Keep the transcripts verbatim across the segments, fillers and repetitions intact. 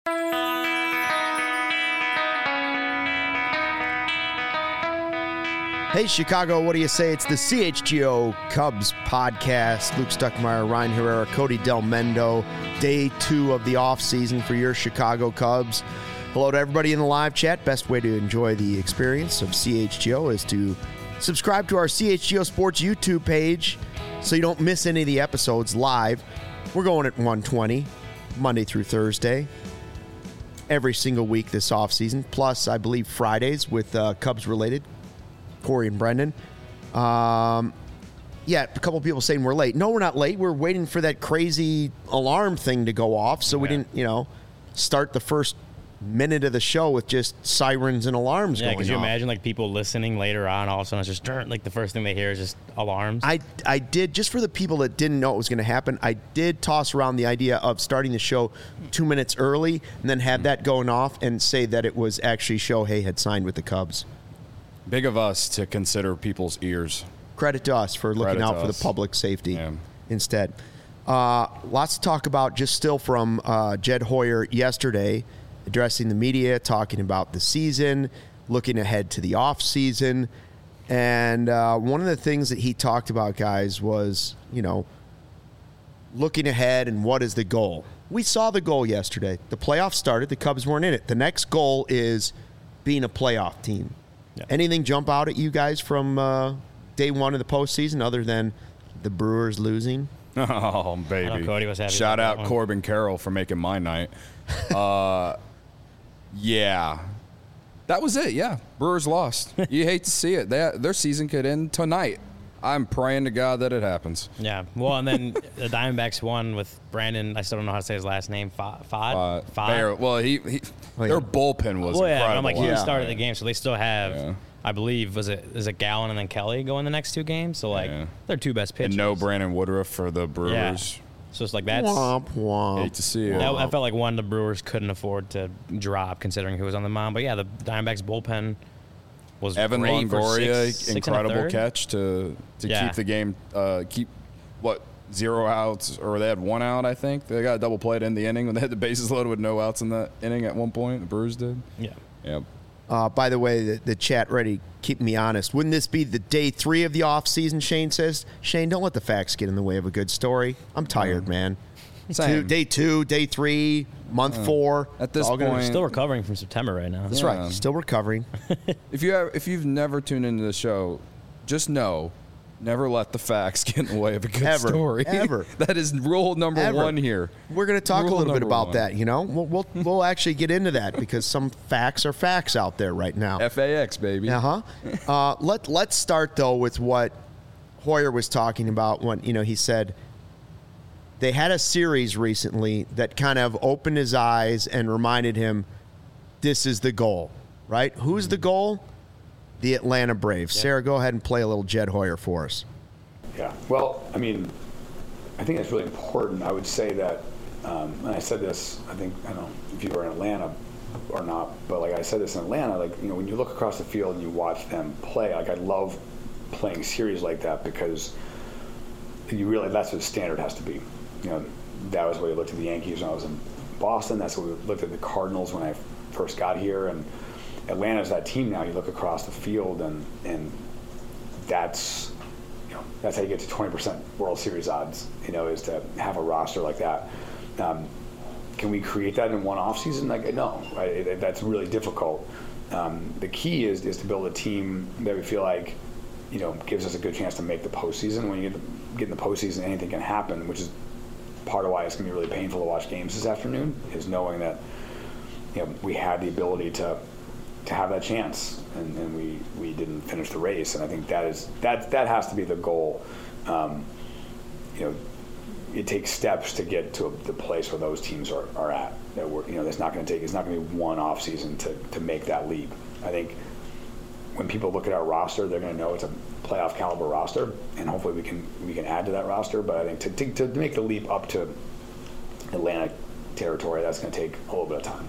Hey, Chicago, what do you say? It's the C H G O Cubs podcast. Luke Stuckmeyer, Ryan Herrera, Cody Del Mendo. Day two of the offseason for your Chicago Cubs. Hello to everybody in the live chat. Best way to enjoy the experience of C H G O is to subscribe to our C H G O Sports YouTube page so you don't miss any of the episodes live. We're going at one twenty, Monday through Thursday, every single week this offseason, plus, I believe, Fridays with uh, Cubs-related. Corey and Brendan. Um, yeah, a couple people saying we're late. No, we're not late. We're waiting for that crazy alarm thing to go off, so yeah. we didn't, you know, start the first minute of the show with just sirens and alarms yeah, going off. Yeah, could you imagine, like, people listening later on, all of a sudden it's just, like, the first thing they hear is just alarms? I, I did, just for the people that didn't know it was going to happen, I did toss around the idea of starting the show two minutes early and then have that going off and say that it was actually Shohei had signed with the Cubs. Big of us to consider people's ears. Credit to us for looking Credit out for us. the public safety yeah. instead. Uh, lots to talk about just still from uh, Jed Hoyer yesterday, addressing the media, talking about the season, looking ahead to the offseason. And uh, one of the things that he talked about, guys, was, you know, looking ahead and what is the goal. We saw the goal yesterday. The playoffs started. The Cubs weren't in it. The next goal is being a playoff team. Yeah. Anything jump out at you guys from uh, day one of the postseason other than the Brewers losing? Oh, baby. I know Cody was happy Shout out that Corbin Carroll for making my night. uh, yeah. That was it, yeah. Brewers lost. You hate to see it. They, their season could end tonight. I'm praying to God that it happens. Yeah. Well, and then the Diamondbacks won with Brandon. I still don't know how to say his last name. Fod. Fod. Uh, well, he, he oh, yeah. their bullpen was well, yeah, incredible. I'm like, he yeah. started the game, so they still have. Yeah. I believe was it is it Gallen and then Kelly going the next two games. So like, yeah. they're two best pitchers. And no Brandon Woodruff for the Brewers. Yeah. So it's like that's. Womp, womp. Hate to see it. That, I felt like one the Brewers couldn't afford to drop considering who was on the mound. But yeah, the Diamondbacks bullpen. Was Evan great Longoria, six, six incredible catch to to yeah. keep the game, uh, keep what zero outs, or they had one out, I think. They got a double play in the inning when they had the bases loaded with no outs in that inning at one point. The Brewers did. Yeah. Yep. Uh, by the way, the, the chat ready. Keep me honest. Wouldn't this be the day three of the offseason, Shane says? Shane, don't let the facts get in the way of a good story. I'm tired, mm. man. Two, day two, day three, month uh, four. At this point, gonna, still recovering from September right now. That's yeah. right. Still recovering. if you have, if you've never tuned into the show, just know, never let the facts get in the way of a good ever, story. Ever. That is rule number ever. one here. We're going to talk rule a little bit about one. that. You know, we'll we'll, we'll actually get into that because some facts are facts out there right now. F A X, baby. Uh-huh. uh Let Let's start though with what Hoyer was talking about when you know he said. They had a series recently that kind of opened his eyes and reminded him this is the goal, right? Who's the goal? The Atlanta Braves. Yeah. Sarah, go ahead and play a little Jed Hoyer for us. Yeah, well, I mean, I think it's really important. I would say that, um, and I said this, I think, I don't know if you were in Atlanta or not, but like I said this in Atlanta, like, you know, when you look across the field and you watch them play, like I love playing series like that because you really, that's what the standard has to be. You know, that was what we looked at the Yankees when I was in Boston. That's what we looked at the Cardinals when I first got here. And Atlanta's that team now. You look across the field, and and that's you know that's how you get to twenty percent World Series odds. You know, is to have a roster like that. Um, can we create that in one off season? Like no, right? It, it, that's really difficult. Um, the key is is to build a team that we feel like you know gives us a good chance to make the postseason. When you get, the, get in the postseason, anything can happen, which is part of why it's going to be really painful to watch games this afternoon is knowing that you know we had the ability to to have that chance and, and we, we didn't finish the race, and I think that is that that has to be the goal. Um, you know, it takes steps to get to the place where those teams are, are at. That we're, you know, it's not going to take it's not going to be one off season to to make that leap. I think when people look at our roster, they're going to know it's a playoff caliber roster, and hopefully we can we can add to that roster. But I think to to, to make the leap up to Atlantic territory, that's going to take a little bit of time.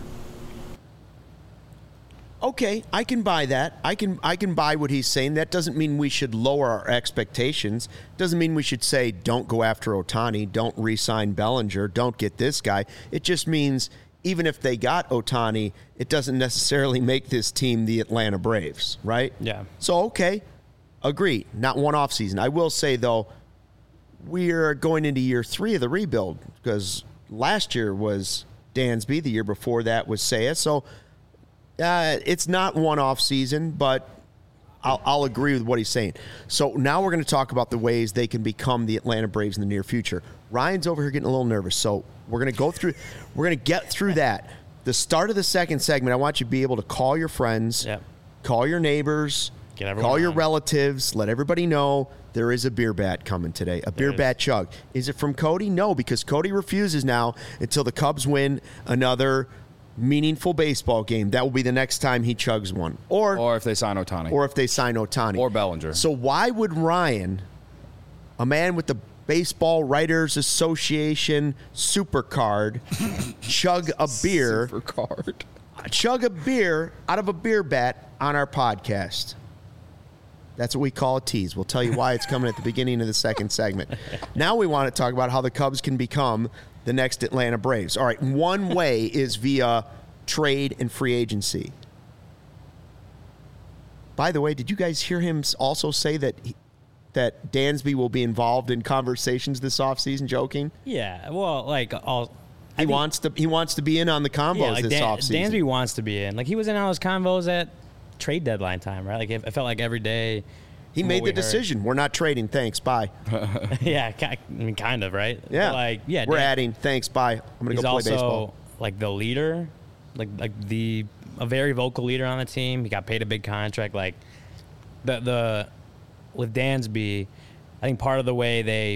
Okay, I can buy that. I can I can buy what he's saying. That doesn't mean we should lower our expectations. Doesn't mean we should say don't go after Ohtani, don't re-sign Bellinger, don't get this guy. It just means even if they got Ohtani, it doesn't necessarily make this team the Atlanta Braves, right? Yeah. So, okay, agree. Not one offseason. I will say, though, we're going into year three of the rebuild because last year was Dansby. The year before that was Seiya. So uh, it's not one offseason, but I'll, I'll agree with what he's saying. So now we're going to talk about the ways they can become the Atlanta Braves in the near future. Ryan's over here getting a little nervous, so we're going to go through, we're going to get through that. The start of the second segment, I want you to be able to call your friends, Yep. call your neighbors, Get everyone call your on. relatives, let everybody know there is a beer bat coming today, a beer is. bat chug. Is it from Cody? No, because Cody refuses now until the Cubs win another meaningful baseball game. That will be the next time he chugs one. Or Or if they sign Ohtani. or if they sign Ohtani. Or Bellinger. So why would Ryan, a man with the Baseball Writers Association super card, chug a beer, For card. chug a beer out of a beer bat on our podcast? That's what we call a tease. We'll tell you why it's coming at the beginning of the second segment. Now we want to talk about how the Cubs can become the next Atlanta Braves. All right, one way is via trade and free agency. By the way, did you guys hear him also say that he, that Dansby will be involved in conversations this offseason, joking? Yeah, well, like all. He wants to he wants to be in on the combos Yeah, like this Dan, offseason. Dansby wants to be in. Like he was in all those convos at trade deadline time, right? Like it, it felt like every day. He from made what the we heard- decision. We're not trading. Thanks. Bye. yeah, ki- I mean, kind of, right? Yeah. But like, yeah, We're Dan- adding. Thanks. Bye. I'm going to He's go play also baseball. like the leader, like like the a very vocal leader on the team. He got paid a big contract. Like the the with Dansby, I think part of the way they,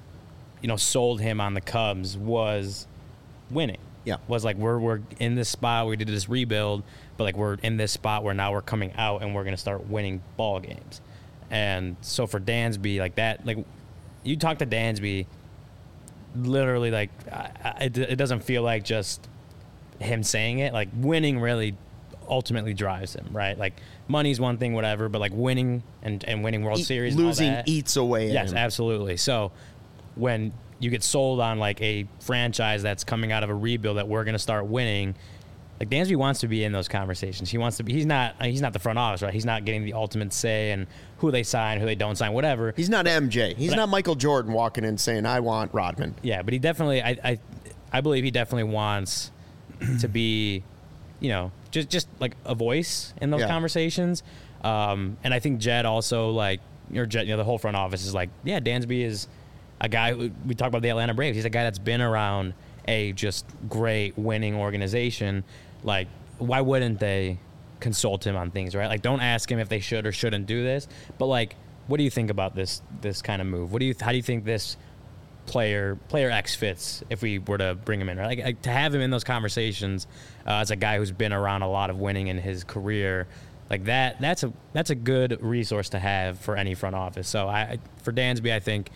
you know, sold him on the Cubs was winning. Yeah. Was like we're we're in this spot. We did this rebuild, but like we're in this spot where now we're coming out and we're gonna start winning ball games. And so for Dansby, like that, like you talk to Dansby, literally, like I, I, it, it doesn't feel like just him saying it. Like winning really ultimately drives him, right? Like money's one thing, whatever, but like winning and, and winning World E- Series, and all losing that, eats away at yes, him. absolutely. So when you get sold on like a franchise that's coming out of a rebuild that we're going to start winning, like Dansby wants to be in those conversations. He wants to be. He's not. He's not the front office, right? He's not getting the ultimate say and who they sign, who they don't sign, whatever. He's not M J. He's But I- not Michael Jordan walking in saying, I want Rodman. Yeah, but he definitely. I. I, I believe he definitely wants to be, you know, just just like a voice in those Yeah. conversations. Um, and I think Jed also like your Jed. You know, the whole front office is like, yeah, Dansby is a guy. Who, we talk about the Atlanta Braves. He's a guy that's been around a just great winning organization. Like, why wouldn't they consult him on things, right? Like, don't ask him if they should or shouldn't do this, but like, what do you think about this this kind of move? What do you how do you think this player player X fits if we were to bring him in, right? Like, like to have him in those conversations uh, as a guy who's been around a lot of winning in his career, like that that's a that's a good resource to have for any front office. So I for Dansby, I think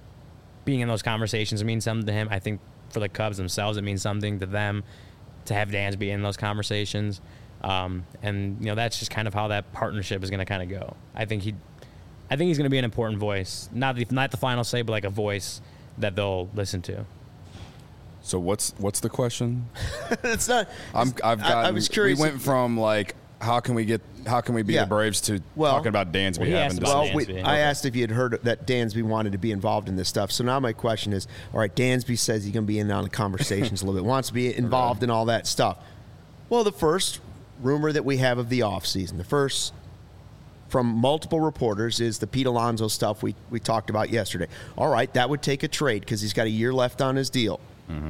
being in those conversations means something to him. I think for the Cubs themselves, it means something to them to have Dansby in those conversations. Um, and, you know, that's just kind of how that partnership is going to kind of go. I think he, I think he's going to be an important voice. Not the, not the final say, but like a voice that they'll listen to. So what's what's the question? It's not. I'm I've I- got. I was curious We if- went from like how can we get how can we beat Yeah. the Braves to Well- talking about Dansby Well, he having asked to about Well, we, Dansby. I asked if you had heard that Dansby wanted to be involved in this stuff. So now my question is, all right, Dansby says he's going to be in on the conversations a little bit, wants to be involved in all that stuff. Well, the first rumor that we have of the offseason, the first from multiple reporters is the Pete Alonso stuff we, we talked about yesterday. All right, that would take a trade because he's got a year left on his deal. Mm-hmm.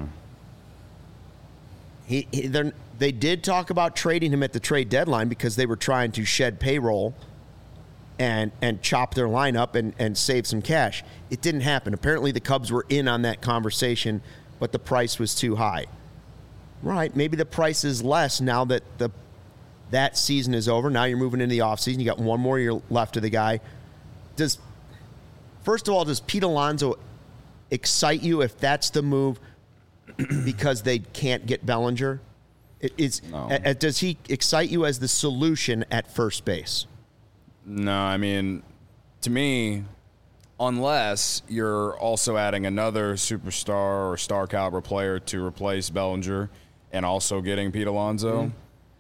He, he they're- they did talk about trading him at the trade deadline because they were trying to shed payroll and and chop their lineup and, and save some cash. It didn't happen. Apparently the Cubs were in on that conversation, but the price was too high. Right, maybe the price is less now that the that season is over. Now you're moving into the offseason. You got one more year left of the guy. Does first of all, does Pete Alonso excite you if that's the move because they can't get Bellinger? It, it's, No. uh, does he excite you as the solution at first base? No, I mean, to me, unless you're also adding another superstar or star caliber player to replace Bellinger, and also getting Pete Alonso, mm-hmm.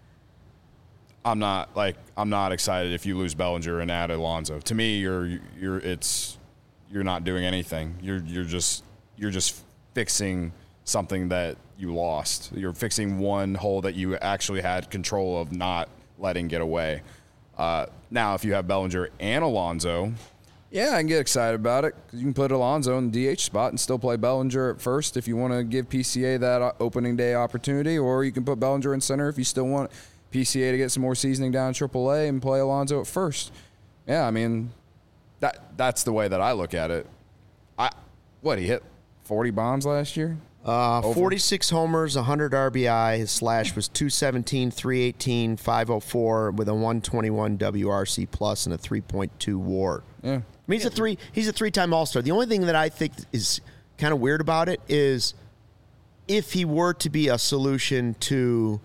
I'm not like I'm not excited if you lose Bellinger and add Alonso. To me, you're you're it's you're not doing anything. You're you're just you're just fixing something that you lost. You're fixing one hole that you actually had control of not letting get away. Uh, now, if you have Bellinger and Alonso, yeah, I can get excited about it because you can put Alonso in the D H spot and still play Bellinger at first if you want to give P C A that opening day opportunity, or you can put Bellinger in center if you still want P C A to get some more seasoning down in triple A and play Alonso at first. Yeah, I mean, that that's the way that I look at it. I what, he hit forty bombs last year? Uh, forty-six homers, one hundred R B I. His slash was two seventeen, three eighteen, five oh four with a one twenty-one W R C plus and a three point two WAR. Yeah. I mean, he's a three. He's a three-time All-Star. The only thing that I think is kind of weird about it is if he were to be a solution to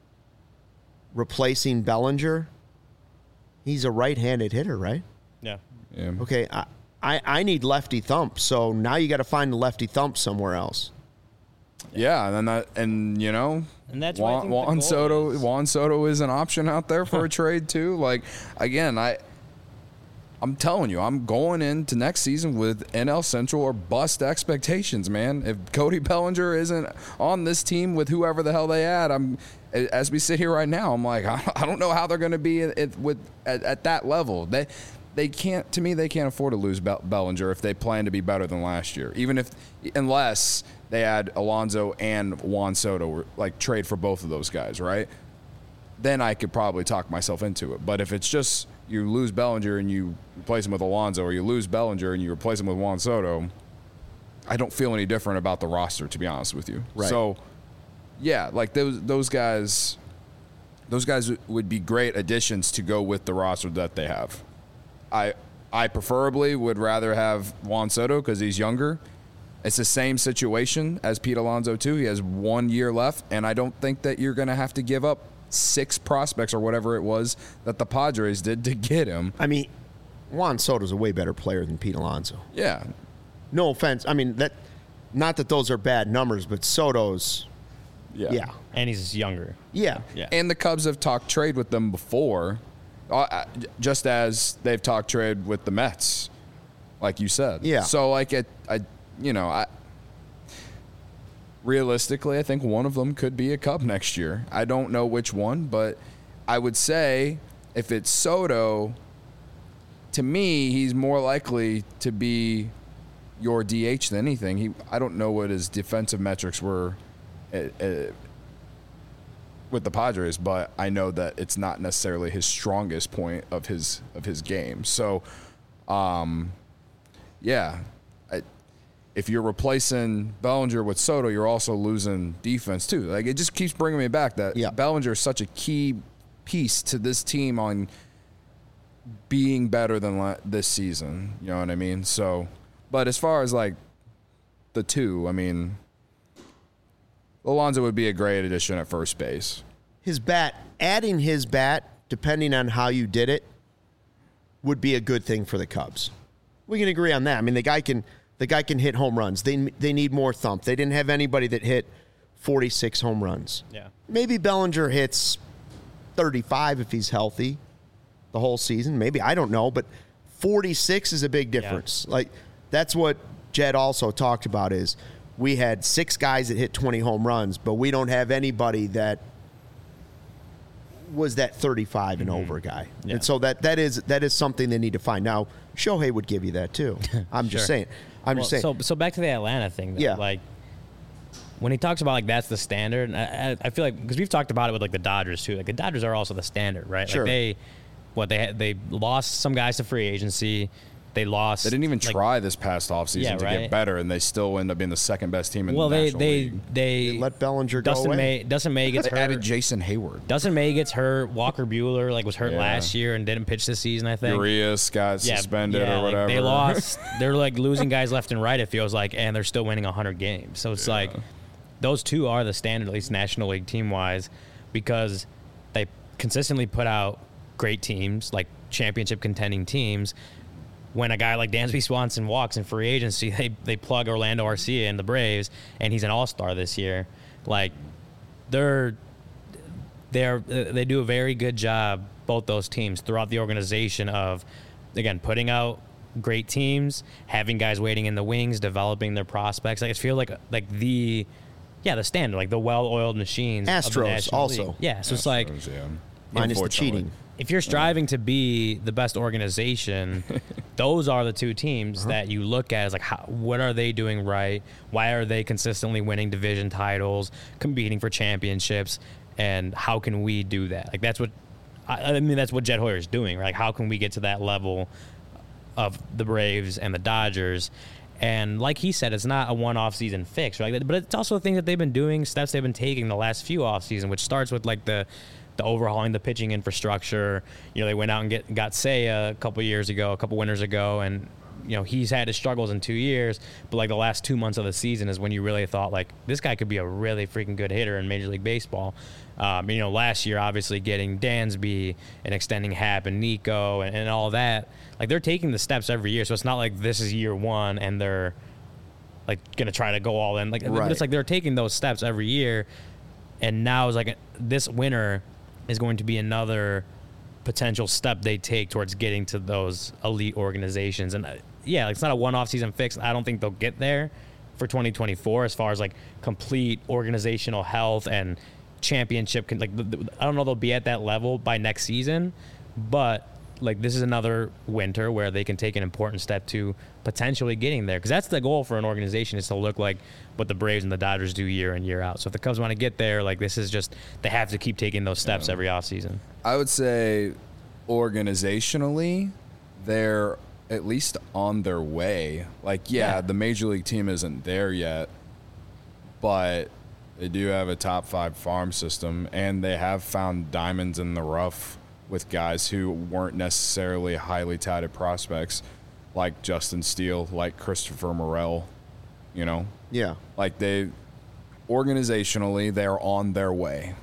replacing Bellinger, he's a right-handed hitter, right? Yeah. Yeah. Okay, I, I, I need lefty thump, so now you got to find the lefty thump somewhere else. Yeah, and then that, and you know, and that's why I Juan, think the Juan goal Soto. is- Juan Soto is an option out there for a trade too. Like again, I, I'm telling you, I'm going into next season with N L Central or bust expectations, man. If Cody Bellinger isn't on this team with whoever the hell they add, I'm as we sit here right now, I'm like, I don't know how they're going to be at, at, with at, at that level. They. They can't. To me, they can't afford to lose Bellinger if they plan to be better than last year. Even if, unless they add Alonso and Juan Soto, like trade for both of those guys, right? Then I could probably talk myself into it. But if it's just you lose Bellinger and you replace him with Alonso, or you lose Bellinger and you replace him with Juan Soto, I don't feel any different about the roster, to be honest with you. Right. So, yeah, like those those guys, those guys would be great additions to go with the roster that they have. I I preferably would rather have Juan Soto because he's younger. It's the same situation as Pete Alonso, too. He has one year left, and I don't think that you're going to have to give up six prospects or whatever it was that the Padres did to get him. I mean, Juan Soto's a way better player than Pete Alonso. Yeah. No offense. I mean, that not that those are bad numbers, but Soto's, Yeah. yeah. And he's younger. Yeah. Yeah. And the Cubs have talked trade with them before, uh, just as they've talked trade with the Mets, like you said. Yeah. So, like, it, I, you know, I realistically, I think one of them could be a Cub next year. I don't know which one, but I would say if it's Soto, to me, he's more likely to be your D H than anything. He, I don't know what his defensive metrics were at, at, with the Padres, but I know that it's not necessarily his strongest point of his of his game. So, um, yeah, I, if you're replacing Bellinger with Soto, you're also losing defense too. Like, it just keeps bringing me back that yeah. Bellinger is such a key piece to this team on being better than la- this season. You know what I mean? So, but as far as like the two, I mean, Alonso would be a great addition at first base. His bat, adding his bat, depending on how you did it, would be a good thing for the Cubs. We can agree on that. I mean, the guy can the guy can hit home runs. They they need more thump. They didn't have anybody that hit forty-six home runs. Yeah. Maybe Bellinger hits thirty-five if he's healthy the whole season. Maybe, I don't know, but forty-six is a big difference. Yeah. Like, that's what Jed also talked about is we had six guys that hit twenty home runs, but we don't have anybody that was that thirty-five and mm-hmm. over guy. Yeah. And so that that is that is something they need to find. Now, Shohei would give you that too. I'm sure. just saying. I'm well, just saying. So so back to the Atlanta thing. Though, yeah. Like, when he talks about like that's the standard, I, I feel like because we've talked about it with like the Dodgers too. Like the Dodgers are also the standard, right? Sure. Like they, what they had, they lost some guys to free agency. They lost. They didn't even like, try this past offseason yeah, to right? get better, and they still end up being the second best team in well, the they National they, League. they they let Bellinger Dustin go away. May Dustin May gets they hurt. added Jason Hayward. Dustin May gets hurt. Walker Buehler like was hurt Yeah. last year and didn't pitch this season. I think. Urias got Yeah, suspended yeah, or like, whatever. they lost. They're like losing guys left and right. It feels like, and they're still winning one hundred games. So it's Yeah. like those two are the standard, at least National League team wise, because they consistently put out great teams, like championship contending teams. When a guy like Dansby Swanson walks in free agency, they they plug Orlando Arcia in the Braves, and he's an all-star this year. Like, they're they're they do a very good job, both those teams, throughout the organization of, again, putting out great teams, having guys waiting in the wings, developing their prospects. Like, it feels like like the yeah the standard, like the well-oiled machines. Astros of the National also. League. Yeah, so Astros, it's like yeah. Minus the Unfortunately. cheating. if you're striving to be the best organization, those are the two teams uh-huh. that you look at as like, how, what are they doing right? Why are they consistently winning division titles, competing for championships, and how can we do that? Like, that's what I, I mean. That's what Jed Hoyer is doing, right? Like, how can we get to that level of the Braves and the Dodgers? And like he said, it's not a one-off season fix, right? But it's also things that they've been doing, steps they've been taking the last few off season, which starts with like the the overhauling the pitching infrastructure. You know, they went out and get got Seiya a couple years ago, a couple winters ago, and you know he's had his struggles in two years. But like the last two months of the season is when you really thought like this guy could be a really freaking good hitter in Major League Baseball. Um, you know, last year obviously getting Dansby and extending Happ and Nico and, and all that. Like, they're taking the steps every year, so it's not like this is year one and they're like gonna try to go all in. Like, right. But it's like they're taking those steps every year, and now it's like a, this winter is going to be another potential step they take towards getting to those elite organizations. And uh, yeah, like, it's not a one-off season fix. I don't think they'll get there for twenty twenty-four as far as like complete organizational health and championship. Like, I don't know they'll be at that level by next season, but like, this is another winter where they can take an important step to potentially getting there, because that's the goal for an organization, is to look like what the Braves and the Dodgers do year in, year out. So if the Cubs want to get there, like, this is just, they have to keep taking those steps yeah. every offseason. I would say organizationally, they're at least on their way. Like, yeah, yeah. the Major League team isn't there yet, but they do have a top five farm system, and they have found diamonds in the rough with guys who weren't necessarily highly touted prospects, like Justin Steele, like Christopher Morel, you know? Yeah. Like, they, organizationally, they're on their way.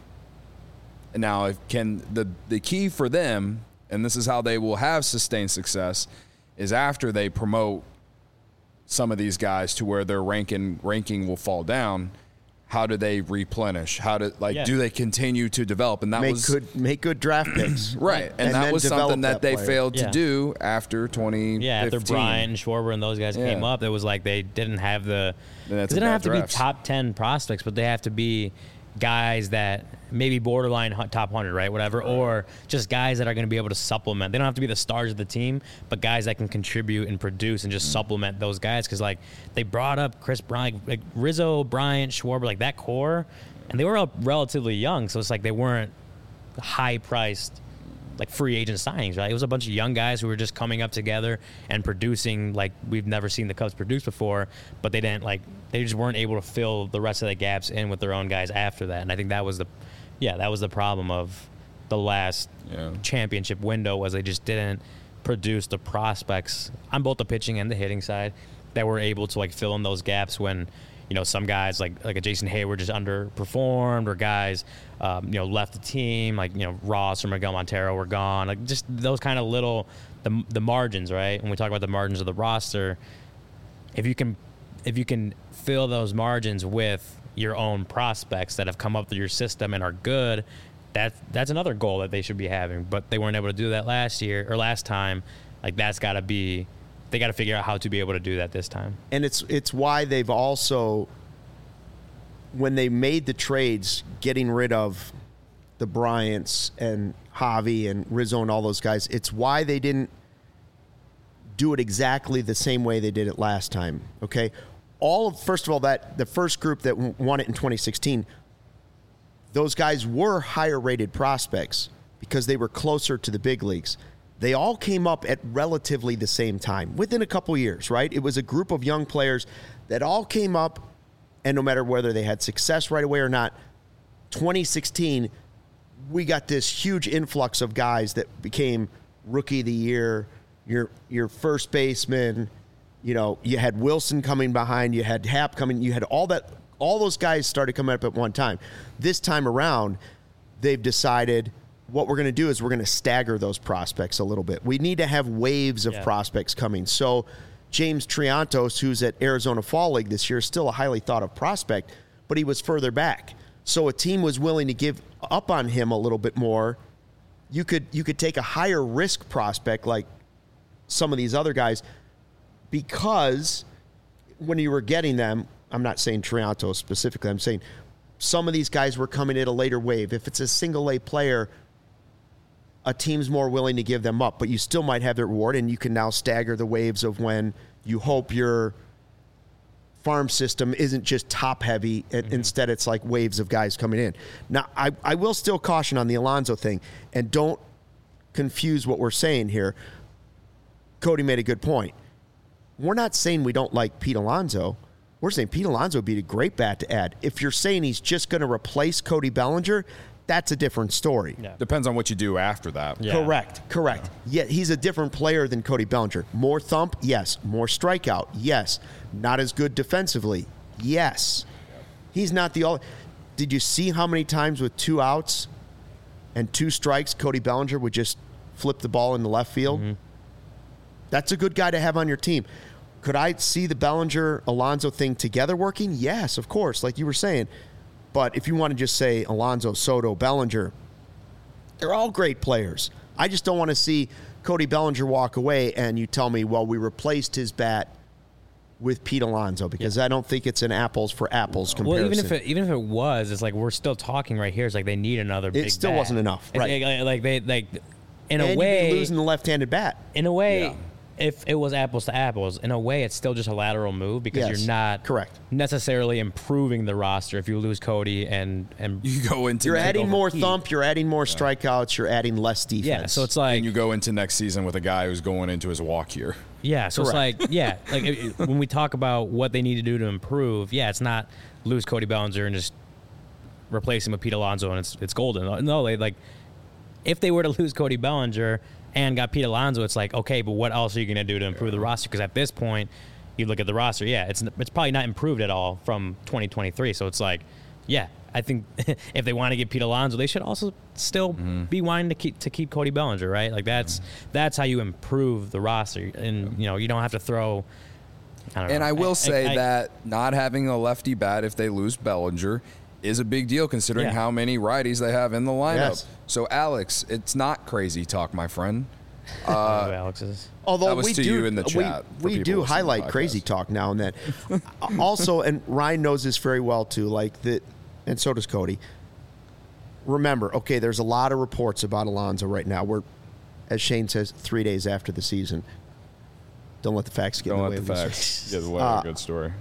Now, if can the the key for them, and this is how they will have sustained success, is after they promote some of these guys to where their ranking ranking will fall down. How do they replenish? How do like yeah. do they continue to develop? And that make was good make good draft picks, right? And, and that was something that, that they failed yeah. to do after twenty fifteen. Yeah, after Bryant and Schwarber and those guys yeah. came up, it was like they didn't have the. They don't have to drafts. be top ten prospects, but they have to be guys that maybe borderline top one hundred, right? Whatever, right. Or just guys that are going to be able to supplement. They don't have to be the stars of the team, but guys that can contribute and produce and just mm-hmm. supplement those guys. Because like they brought up Chris Bryant, like Rizzo, Bryant, Schwarber, like that core, and they were all relatively young, so it's like they weren't high-priced like free agent signings, right? It was a bunch of young guys who were just coming up together and producing like we've never seen the Cubs produce before, but they didn't like they just weren't able to fill the rest of the gaps in with their own guys after that. And I think that was the yeah, that was the problem of the last yeah. championship window, was they just didn't produce the prospects on both the pitching and the hitting side that were able to like fill in those gaps when, you know, some guys like like a Jason Hayward just underperformed, or guys, um, you know, left the team, like, you know, Ross or Miguel Montero were gone. Like, just those kind of little, the the margins, right? When we talk about the margins of the roster, if you can, if you can fill those margins with your own prospects that have come up through your system and are good, that's that's another goal that they should be having. But they weren't able to do that last year or last time. Like, that's got to be. They got to figure out how to be able to do that this time. And it's it's why they've also, when they made the trades, getting rid of the Bryants and Javi and Rizzo and all those guys, it's why they didn't do it exactly the same way they did it last time, okay? All of, first of all, that the first group that won it in twenty sixteen, those guys were higher-rated prospects because they were closer to the big leagues. They all came up at relatively the same time, within a couple years, right? It was a group of young players that all came up, and no matter whether they had success right away or not, twenty sixteen, we got this huge influx of guys that became Rookie of the Year, your your first baseman. You know, you had Wilson coming behind, you had Happ coming, you had all that. All those guys started coming up at one time. This time around, they've decided, what we're going to do is we're going to stagger those prospects a little bit. We need to have waves of yeah. prospects coming. So James Triantos, who's at Arizona Fall League this year, is still a highly thought of prospect, but he was further back. so a team was willing to give up on him a little bit more, you could you could take a higher risk prospect like some of these other guys, because when you were getting them, I'm not saying Trianto specifically, I'm saying some of these guys were coming at a later wave. If it's a single A player, a team's more willing to give them up, but you still might have their reward, and you can now stagger the waves of when you hope your farm system isn't just top heavy, and mm-hmm. instead it's like waves of guys coming in. Now, I, I will still caution on the Alonso thing, and don't confuse what we're saying here. Cody made a good point. We're not saying we don't like Pete Alonso. We're saying Pete Alonso would be a great bat to add. If you're saying he's just going to replace Cody Bellinger, that's a different story. Yeah. Depends on what you do after that. Yeah. Correct, correct. Yeah. Yet he's a different player than Cody Bellinger. More thump, yes. More strikeout, yes. Not as good defensively, yes. He's not the all. Did you see how many times with two outs and two strikes, Cody Bellinger would just flip the ball in the left field? Mm-hmm. That's a good guy to have on your team. Could I see the Bellinger-Alonso thing together working? Yes, of course, like you were saying. But if you want to just say Alonso, Soto, Bellinger, they're all great players. I just don't want to see Cody Bellinger walk away and you tell me, well, we replaced his bat with Pete Alonso, because yeah. I don't think it's an apples for apples comparison. Well, even if it, even if it was, it's like we're still talking right here. It's like they need another it big bat. It still wasn't enough, right? Like, like they, like in and a way, you'd be losing the left-handed bat. In a way. Yeah. If it was apples to apples, in a way, it's still just a lateral move, because yes, you're not correct. necessarily improving the roster if you lose Cody and and you go into you're adding more Pete. thump, you're adding more yeah. strikeouts, you're adding less defense. Yeah, so it's like and you go into next season with a guy who's going into his walk year. Yeah, so correct. It's like yeah, like it, it, when we talk about what they need to do to improve, yeah, it's not lose Cody Bellinger and just replace him with Pete Alonso and it's it's golden. No, they like if they were to lose Cody Bellinger and got Pete Alonso, it's like, okay, but what else are you going to do to improve yeah. the roster? Because at this point, you look at the roster, yeah, it's it's probably not improved at all from twenty twenty-three. So it's like, yeah, I think if they want to get Pete Alonso, they should also still mm-hmm. be wanting to keep to keep Cody Bellinger, right? Like that's mm-hmm. that's how you improve the roster, and you know you don't have to throw. I don't and know. I will I, say I, I, that not having a lefty bat if they lose Bellinger is a big deal, considering yeah. how many righties they have in the lineup. Yes. So, Alex, it's not crazy talk, my friend. Uh, Alex's. Although that was we to do, you in the chat. we, we do highlight crazy talk now and then. Also, and Ryan knows this very well too. Like that, and so does Cody. Remember, okay, there's a lot of reports about Alonso right now. We're, as Shane says, three days after the season. Don't let the facts get Don't in the let way the of facts get in the way uh, of a good story.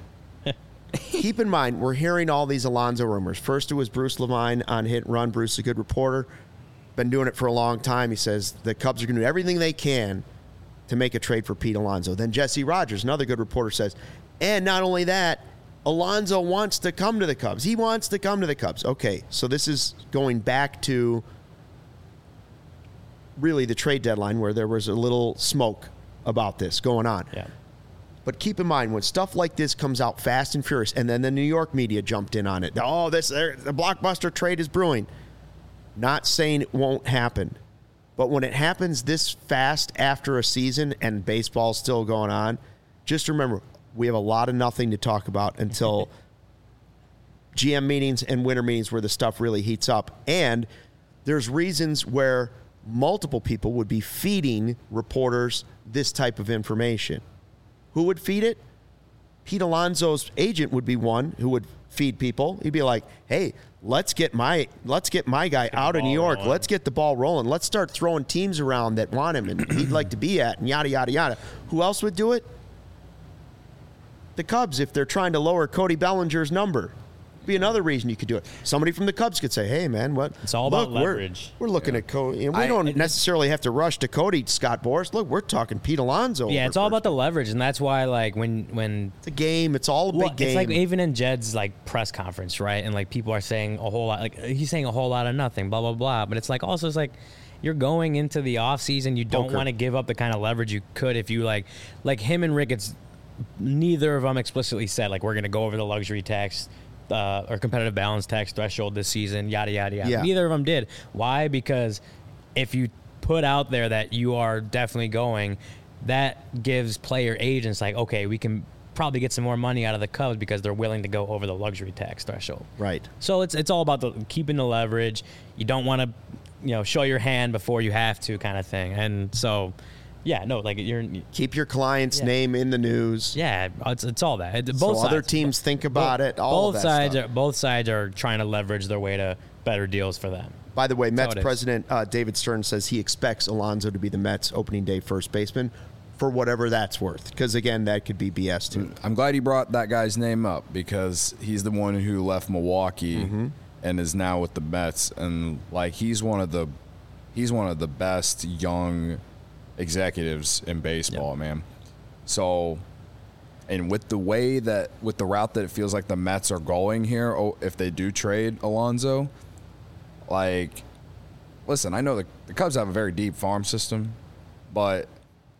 Keep in mind, we're hearing all these Alonso rumors. First, it was Bruce Levine on Hit and Run. Bruce is a good reporter. Been doing it for a long time. He says the Cubs are going to do everything they can to make a trade for Pete Alonso. Then Jesse Rogers, another good reporter, says, and not only that, Alonso wants to come to the Cubs. He wants to come to the Cubs. Okay, so this is going back to really the trade deadline where there was a little smoke about this going on. Yeah. But keep in mind, when stuff like this comes out fast and furious, and then the New York media jumped in on it. Oh, this the blockbuster trade is brewing. Not saying it won't happen. But when it happens this fast after a season and baseball's still going on, just remember, we have a lot of nothing to talk about until G M meetings and winter meetings where the stuff really heats up. And there's reasons where multiple people would be feeding reporters this type of information. Who would feed it? Pete Alonso's agent would be one who would feed people. He'd be like, hey, let's get my let's get my guy out of New York. Rolling. Let's get the ball rolling. Let's start throwing teams around that want him and he'd like to be at and yada, yada, yada. Who else would do it? The Cubs, if they're trying to lower Cody Bellinger's number. Be another reason you could do it. Somebody from the Cubs could say, hey, man, what? It's all look, about leverage. We're, we're looking yeah. at Cody. And we I, don't necessarily have to rush to Cody, Scott Boras. Look, we're talking Pete Alonso. Yeah, it's all about the leverage, and that's why, like, when when it's a game, it's all a well, big game. It's like even in Jed's like press conference, right? And like people are saying a whole lot, like he's saying a whole lot of nothing, blah blah blah. But it's like also it's like you're going into the off season, you don't want to give up the kind of leverage you could if you like, like him and Ricketts. Neither of them explicitly said like we're going to go over the luxury tax. Uh, or competitive balance tax threshold this season, yada, yada, yada. Yeah. Neither of them did. Why? Because if you put out there that you are definitely going, that gives player agents like, okay, we can probably get some more money out of the Cubs because they're willing to go over the luxury tax threshold. Right. So it's it's all about the keeping the leverage. You don't want to, you know, show your hand before you have to, kind of thing. And so, yeah, no, like you're Keep your client's Yeah. name in the news. yeah, it's it's all that. It, both So sides. other teams think about both, it. All both of that sides stuff. are both sides are trying to leverage their way to better deals for them. By the way, Mets how it is. president uh, David Stern says he expects Alonso to be the Mets opening day first baseman for whatever that's worth. Because, again, that could be B S, too. I'm glad you brought that guy's name up because he's the one who left Milwaukee Mm-hmm. and is now with the Mets, and like he's one of the he's one of the best young executives in baseball, man. So, and with the way that with the route that it feels like the Mets are going here, oh, if they do trade Alonso, like, listen, I know the, the Cubs have a very deep farm system, but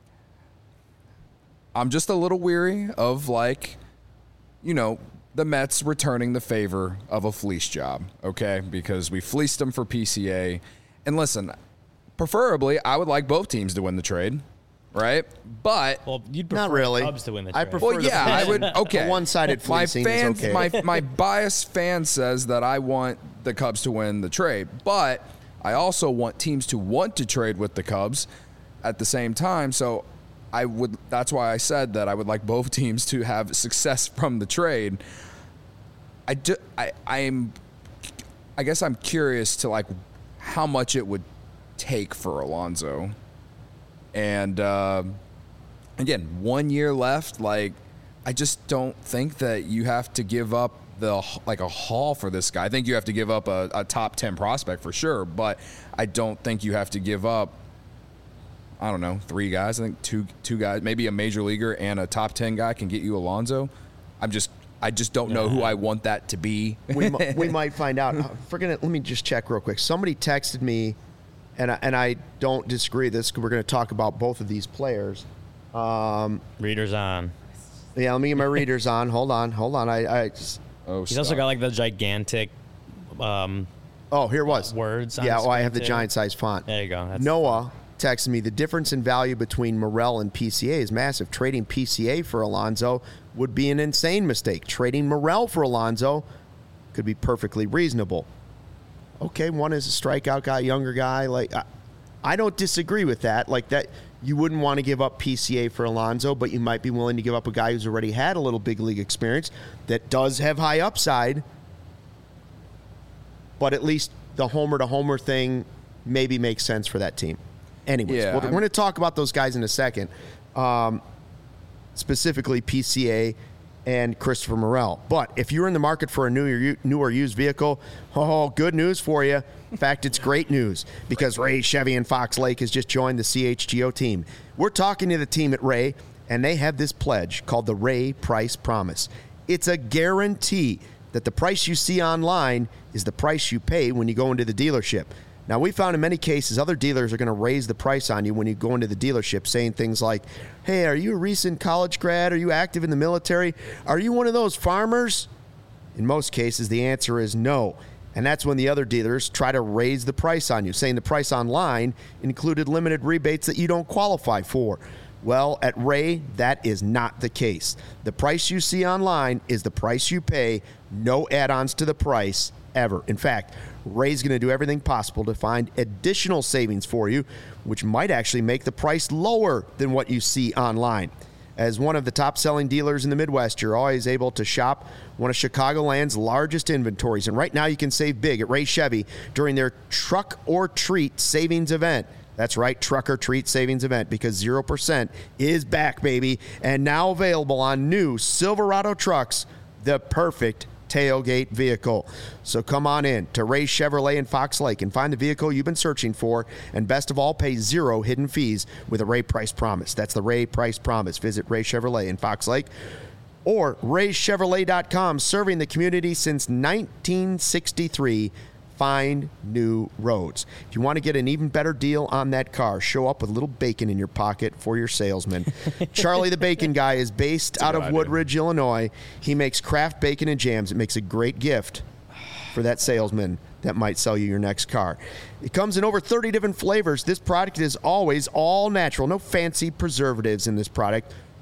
I'm just a little weary of, like, you know, the Mets returning the favor of a fleece job, okay? Because we fleeced them for P C A. And listen, preferably, I would like both teams to win the trade, right? But Well, you'd prefer Not really. the Cubs to win the I trade. prefer well, the yeah, I fleecing. would. Okay, A one-sided my fleecing is fans, okay. my my biased fan says that I want the Cubs to win the trade, but I also want teams to want to trade with the Cubs at the same time. So I would. That's why I said that I would like both teams to have success from the trade. I do, I I'm. I guess I'm curious to like how much it would take for Alonso, and. Uh, Again, one year left. Like, I just don't think that you have to give up the like a haul for this guy. I think you have to give up a, a top ten prospect for sure, but I don't think you have to give up. I don't know, three guys. I think two two guys, maybe a major leaguer and a top ten guy can get you Alonso. I'm just, I just don't know who I want that to be. we, mi- we might find out. Uh, Forget it. Let me just check real quick. Somebody texted me, and I, and I don't disagree with this because we're going to talk about both of these players. Um, Readers on. yeah, let me get my readers on. Hold on, hold on. I, I just, Oh, He's also got like the gigantic um, oh, here it was. words. On Yeah, his oh, I screen, have the too. giant size font. There you go. That's Noah texted me, the difference in value between Morel and P C A is massive. Trading P C A for Alonso would be an insane mistake. Trading Morel for Alonso could be perfectly reasonable. Okay, one is a strikeout guy, younger guy. Like, I, I don't disagree with that. Like that, you wouldn't want to give up P C A for Alonso, but you might be willing to give up a guy who's already had a little big league experience that does have high upside. But at least the homer to homer thing maybe makes sense for that team. Anyways, Yeah, well, we're I'm- going to talk about those guys in a second, um, specifically P C A and Christopher Morel. But if you're in the market for a new, new or used vehicle, oh, good news for you. In fact, it's great news because Ray Chevy in Fox Lake has just joined the C H G O team. We're talking to the team at Ray, and they have this pledge called the Ray Price Promise. It's a guarantee that the price you see online is the price you pay when you go into the dealership. Now, we found in many cases other dealers are going to raise the price on you when you go into the dealership, saying things like, hey, are you a recent college grad? Are you active in the military? Are you one of those farmers? In most cases, the answer is no. And that's when the other dealers try to raise the price on you, saying the price online included limited rebates that you don't qualify for. Well, at Ray, that is not the case. The price you see online is the price you pay, no add-ons to the price ever. In fact, Ray's going to do everything possible to find additional savings for you, which might actually make the price lower than what you see online. As one of the top-selling dealers in the Midwest, you're always able to shop one of Chicagoland's largest inventories. And right now you can save big at Ray Chevy during their Truck or Treat Savings Event. That's right, Truck or Treat Savings Event, because zero percent is back, baby, and now available on new Silverado trucks, the perfect tailgate vehicle. So come on in to Ray Chevrolet in Fox Lake and find the vehicle you've been searching for, and best of all, pay zero hidden fees with a Ray Price Promise. That's the Ray Price Promise. Visit Ray Chevrolet in Fox Lake or ray chevrolet dot com, serving the community since nineteen sixty-three. Find new roads. If you want to get an even better deal on that car, show up with a little bacon in your pocket for your salesman. Charlie the Bacon Guy is based out of idea. Woodridge, Illinois. He makes craft bacon and jams. It makes a great gift for that salesman that might sell you your next car. It comes in over thirty different flavors. This product is always all natural. No fancy preservatives in this product.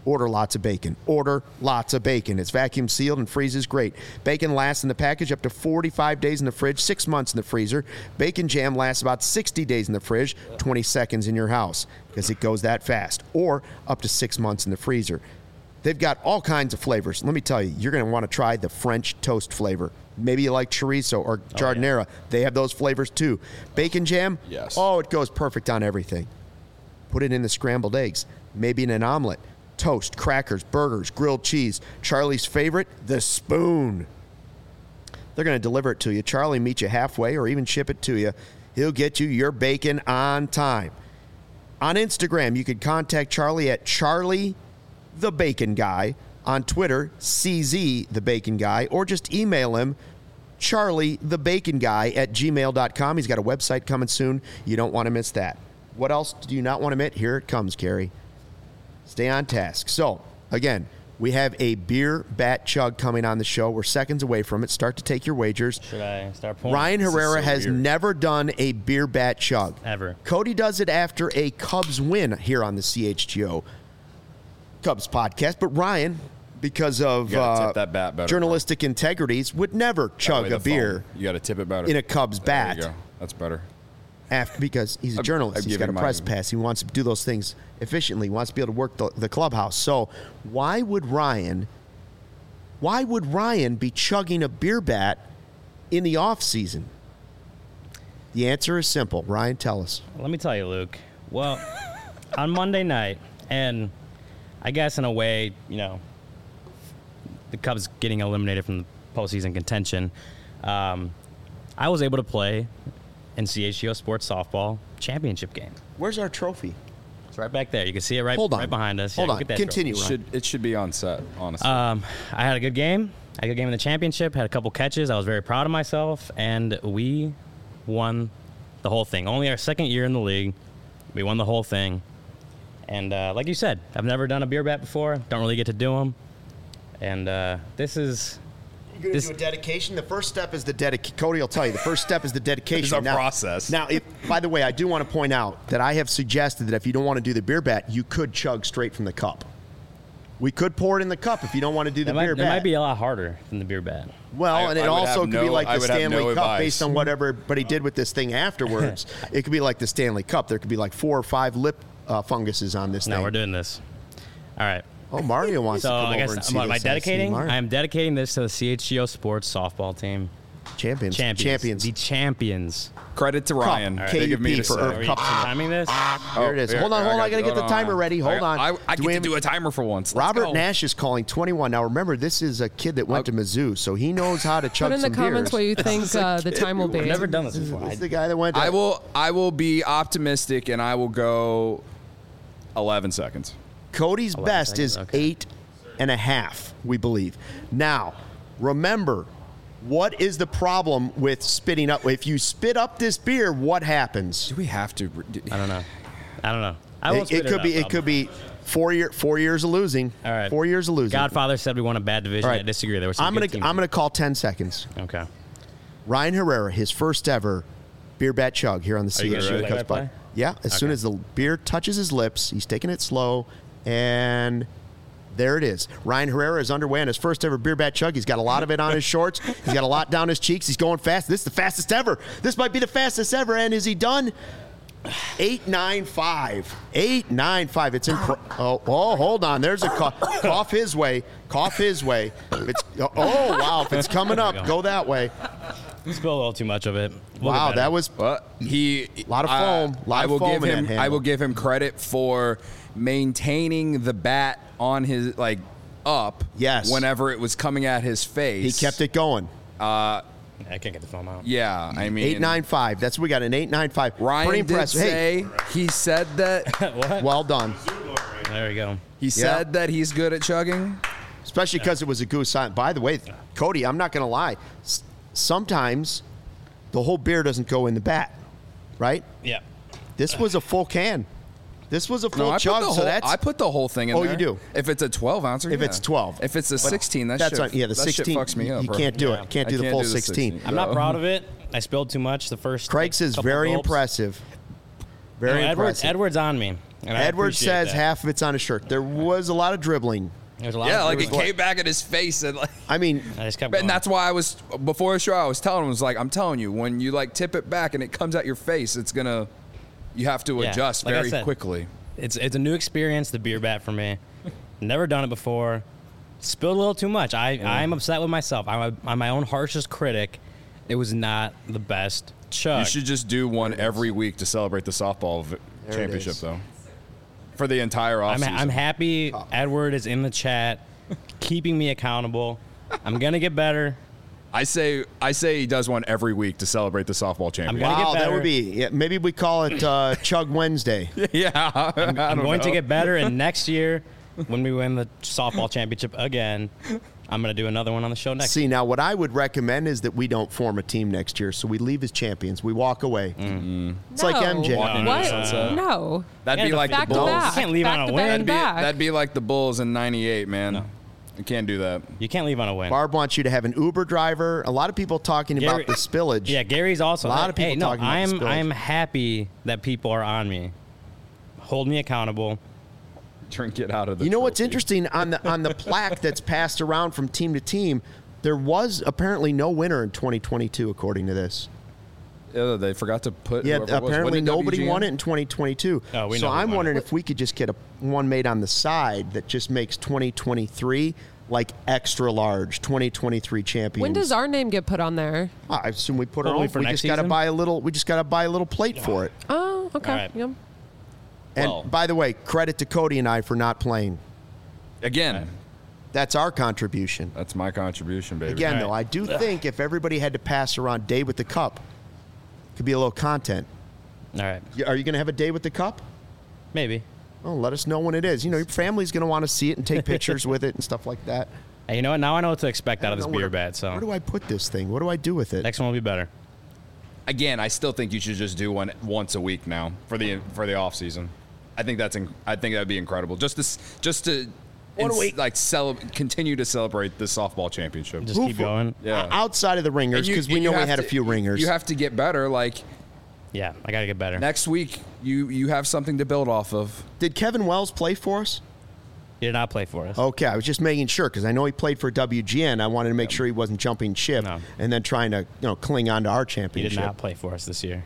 Order lots of bacon. Order lots of bacon. It's vacuum sealed and freezes great. Bacon lasts in the package up to forty-five days in the fridge, six months in the freezer. Bacon jam lasts about sixty days in the fridge, twenty seconds in your house because it goes that fast. Or up to six months in the freezer. They've got all kinds of flavors. Let me tell you, you're going to want to try the French toast flavor. Maybe you like chorizo or giardiniera. Oh, yeah. They have those flavors too. Bacon jam? Yes. Oh, it goes perfect on everything. Put it in the scrambled eggs. Maybe in an omelet. Toast, crackers, burgers, grilled cheese. Charlie's favorite, the spoon. They're going to deliver it to you. Charlie meet you halfway or even ship it to you. He'll get you your bacon on time. On Instagram, you can contact Charlie at Charlie the Bacon Guy. On Twitter, C Z the Bacon Guy. Or just email him, Charlie the Bacon Guy at gmail dot com. He's got a website coming soon. You don't want to miss that. What else do you not want to miss? Here it comes, Carrie. Stay on task. So, again, we have a beer bat chug coming on the show. We're seconds away from it. Start to take your wagers. Should I start pulling? Ryan Herrera so has weird. never done a beer bat chug. Ever. Cody does it after a Cubs win here on the C H G O Cubs podcast. But Ryan, because of You gotta uh, tip that bat better, journalistic integrities, would never That chug way a the beer foam- You got to tip it better. in a Cubs There bat. you go. That's better. After, because he's a I'm- journalist. I'm He's got a giving press my- pass. He wants to do those things efficiently. He wants to be able to work the, the clubhouse. So why would Ryan why would Ryan be chugging a beer bat in the off season? The answer is simple. Ryan, tell us. Let me tell you, Luke. Well, on Monday night, and I guess in a way, you know, the Cubs getting eliminated from the postseason contention, um, I was able to play in C H G O Sports Softball Championship game. Where's our trophy? It's right back there. You can see it right, Hold on. right behind us. Hold Yeah, on. look at that Continue, It Ryan. should, it should be on set, honestly. Um, I had a good game. I had a good game in the championship. Had a couple catches. I was very proud of myself, and we won the whole thing. Only our second year in the league, we won the whole thing. And uh, like you said, I've never done a beer bat before. Don't really get to do them. And uh, this is You're going This- to do a dedication. The first step is the dedication. Cody will tell you. The first step is the dedication. It's a Now- process. Now, if, by the way, I do want to point out that I have suggested that if you don't want to do the beer bat, you could chug straight from the cup. We could pour it in the cup if you don't want to do the that might, beer that bat. might be a lot harder than the beer bat. well, I- and it I would also have could be no- like I the would have Stanley no Cup advice. based on whatever everybody did with this thing afterwards. It could be like the Stanley Cup. There could be like four or five lip uh, funguses on this No, thing. we're doing this. All right. Oh, Mario wants So to come I over and guess see am I this. I see dedicating? Mario. I am dedicating this to the C H G O Sports Softball team. Champions. Champions. Champions. The champions. Credit to Ryan. Cup. Big of me K U P to for say. Irv Are you Cup. timing this? Here it is. here, hold on, here, hold on. I got got to you. get the Hold timer on. ready. Hold I, on. I, I Do get we to have- do a timer for once. Let's Robert go. Nash is calling twenty-one. Now, remember, this is a kid that went to Mizzou, so he knows how to chug Put in the some comments beers. what you think uh, the time will be. I've never done this before. This I, is the guy that went to I will. I will be optimistic, and I will go eleven seconds. Cody's eleven best seconds, is okay. eight and a half, we believe. Now, remember, what is the problem with spitting up? If you spit up this beer, what happens? Do we have to? do- I don't know. I don't know. I won't It, spit it could up, be. It I'll- could be four year four years of losing. All right. Four years of losing. Godfather said we won a bad division. All right. I disagree. There was some I'm good gonna. teams. I'm gonna call ten seconds. Okay. Ryan Herrera, his first ever beer bat chug here on the Are you C gonna H G O do Cubs play-by-play? pod. Yeah, as soon Okay. as the beer touches his lips, he's taking it slow, and there it is. Ryan Herrera is underway on his first ever beer bat chug. He's got a lot of it on his shorts. He's got a lot down his cheeks. He's going fast. This is the fastest ever. This might be the fastest ever. And is he done? Eight nine five. Eight nine five. It's in. Oh, oh, hold on. There's a cough. Cough his way. Cough his way. If it's, oh wow. If it's coming up, There we go go. that way. Spilled a little too much of it. We'll get Wow, better. that was But he a Lot of foam, lot I of will foam give in that him. I handle. will give him credit for maintaining the bat on his like up. Yes. Whenever it was coming at his face, he kept it going. Uh, I can't get the foam out. yeah, I mean, Eight nine five. That's what we got. An eight nine five. Ryan Pretty did impressive. Hey, say he said that What? well done. There we go. he said that he's good at chugging. Especially because it was a goose sign. By the way, Cody, I'm not going to lie. S- sometimes the whole beer doesn't go in the bat, right? Yeah. This was a full can. This was a full No, I chug. put the so whole. that's I put the whole thing in Oh, there. you do? If it's a twelve ouncer. If yeah. it's twelve. If it's a sixteen, that that's shit, right. Yeah, the that shit sixteen. fucks me you up. you bro. can't do Yeah. it. Can't I do the can't full do the sixteen. sixteen. I'm not No. proud of it. I spilled too much the first. Craig's is couple very gulps. impressive. Very No, Edwards, impressive. Edwards on me. And I Edward appreciate says that. half of it's on his shirt. There was a lot of dribbling. There's a lot Yeah, of like it like, came back at his face and like. I mean, I just kept And going. that's why I was before the show. I was telling him, was like, I'm telling you, when you like tip it back and it comes at your face, it's gonna. You have to Yeah, adjust like I very said. quickly. It's it's a new experience, the beer bat for me. Never done it before. Spilled a little too much. I I'm upset with myself. I'm, a, I'm my own harshest critic. It was not the best chug. You should just do one every week to celebrate the softball v- There it championship, is. though. For the entire I'm, offseason. I'm happy Edward is in the chat, keeping me accountable. I'm gonna get better. I say I say he does one every week to celebrate the softball championship. gonna wow, get that better. would be. Yeah, maybe we call it uh, Chug Wednesday. yeah, I I'm don't going to know. get better, and next year, when we win the softball championship again, I'm gonna do another one on the show next. See, now what I would recommend is that we don't form a team next year, so we leave as champions. We walk away. It's like No. M J. Walking into What? the sunset. No. That'd Yeah, be the like the Back to Bulls. back. You can't leave back on a to win. back That'd to be, back. that'd be like the Bulls in ninety-eight, man. No. You can't do that. You can't leave on a win. Barb wants you to have an Uber driver. A lot of people talking Gary- about the spillage. Yeah, Gary's also. A lot of hey, people no, talking about the I'm spillage. I'm happy that people are on me. Hold me accountable. Drink it out of the You know what's trophy. interesting on the on the plaque that's passed around from team to team? There was apparently no winner in twenty twenty-two, according to this. Yeah, they forgot to put. Yeah, whoever it was. apparently Wasn't it nobody W G N? won it in twenty twenty-two. Oh, we so know who I'm won it. wondering if we could just get a one made on the side that just makes twenty twenty-three like extra large, twenty twenty-three champions. When does our name get put on there? I assume we put our Probably own. for We next just got to season? buy a little. We just got to buy a little plate for it. Oh, okay. All right. Yep. And Well- by the way, credit to Cody and I for not playing. Again, That's our contribution. that's my contribution, baby. Again, All though, right. I do think if everybody had to pass around day with the cup, it could be a little content. All right, Y- Are you going to have a day with the cup? maybe. Oh, let us know when it is. You know, your family's going to want to see it and take pictures with it and stuff like that. Hey, you know what? Now I know what to expect out of I this don't know beer where- bat. So Where do I put this thing? What do I do with it? next one will be better. Again, I still think you should just do one once a week now for the for the off season. I think that's inc- I think that'd be incredible. Just to s- just to One a ins- week. like cele- continue to celebrate the softball championship. Just Who keep for- going. Yeah. O- Outside of the ringers, And you- because we you know we have had a to- few ringers. You have to get better. Like Yeah, I gotta get better. next week, you you have something to build off of. Did Kevin Wells play for us? He did not play for us. Okay, I was just making sure because I know he played for W G N. I wanted to make sure he wasn't jumping ship No. and then trying to, you know, cling on to our He championship. did not play for us this year.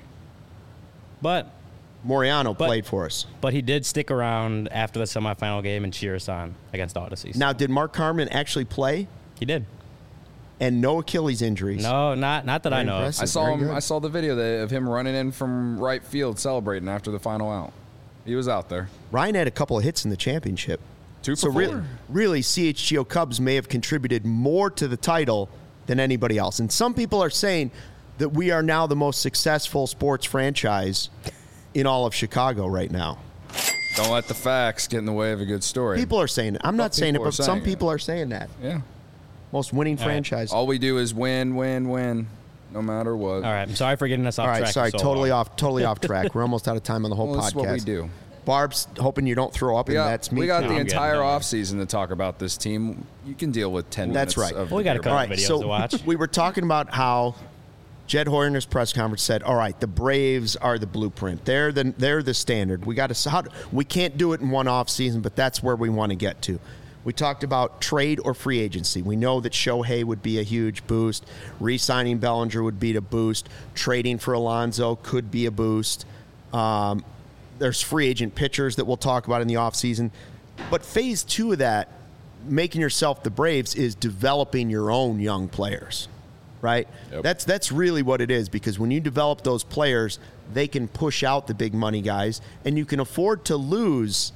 But Moriano But- played for us. but he did stick around after the semifinal game and cheer us on against Odyssey. Now, did Mark Carmen actually play he did. and no Achilles injuries? No, not not that I Very know. of. impressive. I saw Very him. good. I saw the video that, of him running in from right field celebrating after the final out. He was out there. Ryan had a couple of hits in the championship. Two So for re- four. really, C H G O Cubs may have contributed more to the title than anybody else. And some people are saying that we are now the most successful sports franchise in all of Chicago right now. Don't let the facts get in the way of a good story. People are saying it. I'm not saying it, people are but some saying it. people are saying that. yeah. Most winning All right. franchise. All we do is win, win, win, no matter what. All right, I'm sorry for getting us off All right, track. sorry, for so totally long. off, totally off track. We're almost out of time on the whole Well, podcast. that's what we do. Barb's hoping you don't throw up, We and got, that's me. we got too. the I'm good, entire don't worry. offseason to talk about this team. You can deal with ten That's minutes. right. Of Well, we got a beer couple back. All right, videos so to watch. we were talking about how Jed Hoyer in his press conference said, "All right, the Braves are the blueprint. They're the they're the standard. We got to how we can't do it in one off season, but that's where we want to get to." We talked about trade or free agency. We know that Shohei would be a huge boost. Re-signing Bellinger would be a boost. Trading for Alonso could be a boost. Um, there's free agent pitchers that we'll talk about in the offseason. But phase two of that, making yourself the Braves, is developing your own young players, right? Yep. That's that's really what it is, because when you develop those players, they can push out the big money guys, and you can afford to lose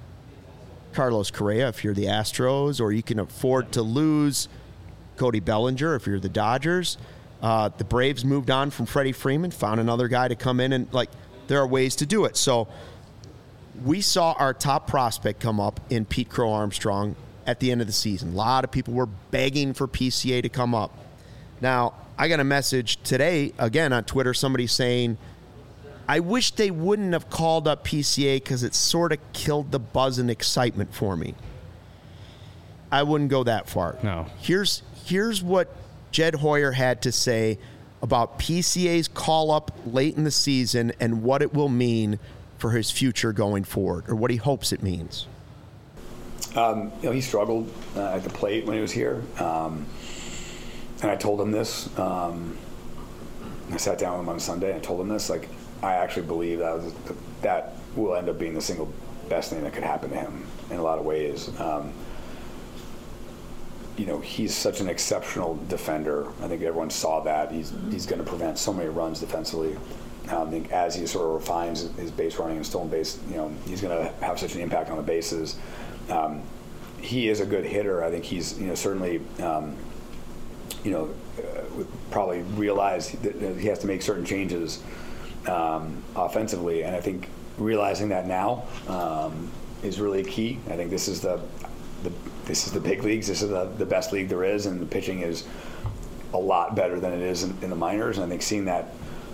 Carlos Correa if you're the Astros, or you can afford to lose Cody Bellinger if you're the Dodgers. Uh, the Braves moved on from Freddie Freeman, found another guy to come in, and like there are ways to do it. So we saw our top prospect come up in Pete Crow Armstrong at the end of the season. A lot of people were begging for P C A to come up. Now, I got a message today, again on Twitter, somebody saying, I wish they wouldn't have called up P C A because it sort of killed the buzz and excitement for me. I wouldn't go that far. No. Here's here's what Jed Hoyer had to say about P C A's call up late in the season and what it will mean for his future going forward, or what he hopes it means? Um, you know, he struggled uh, at the plate when he was here, um, and I told him this. Um, I sat down with him on Sunday and told him this. Like, I actually believe that was, that will end up being the single best thing that could happen to him in a lot of ways. Um, you know, he's such an exceptional defender. I think everyone saw that. He's he's going to prevent so many runs defensively. Um, I think as he sort of refines his base running and stolen base, you know, he's going to have such an impact on the bases. Um, he is a good hitter. I think he's, you know, certainly, um, you know, uh, probably realized that he has to make certain changes um, offensively, and I think realizing that now um, is really key. I think this is the, the this is the big leagues. This is the, the best league there is, and the pitching is a lot better than it is in, in the minors. And I think seeing that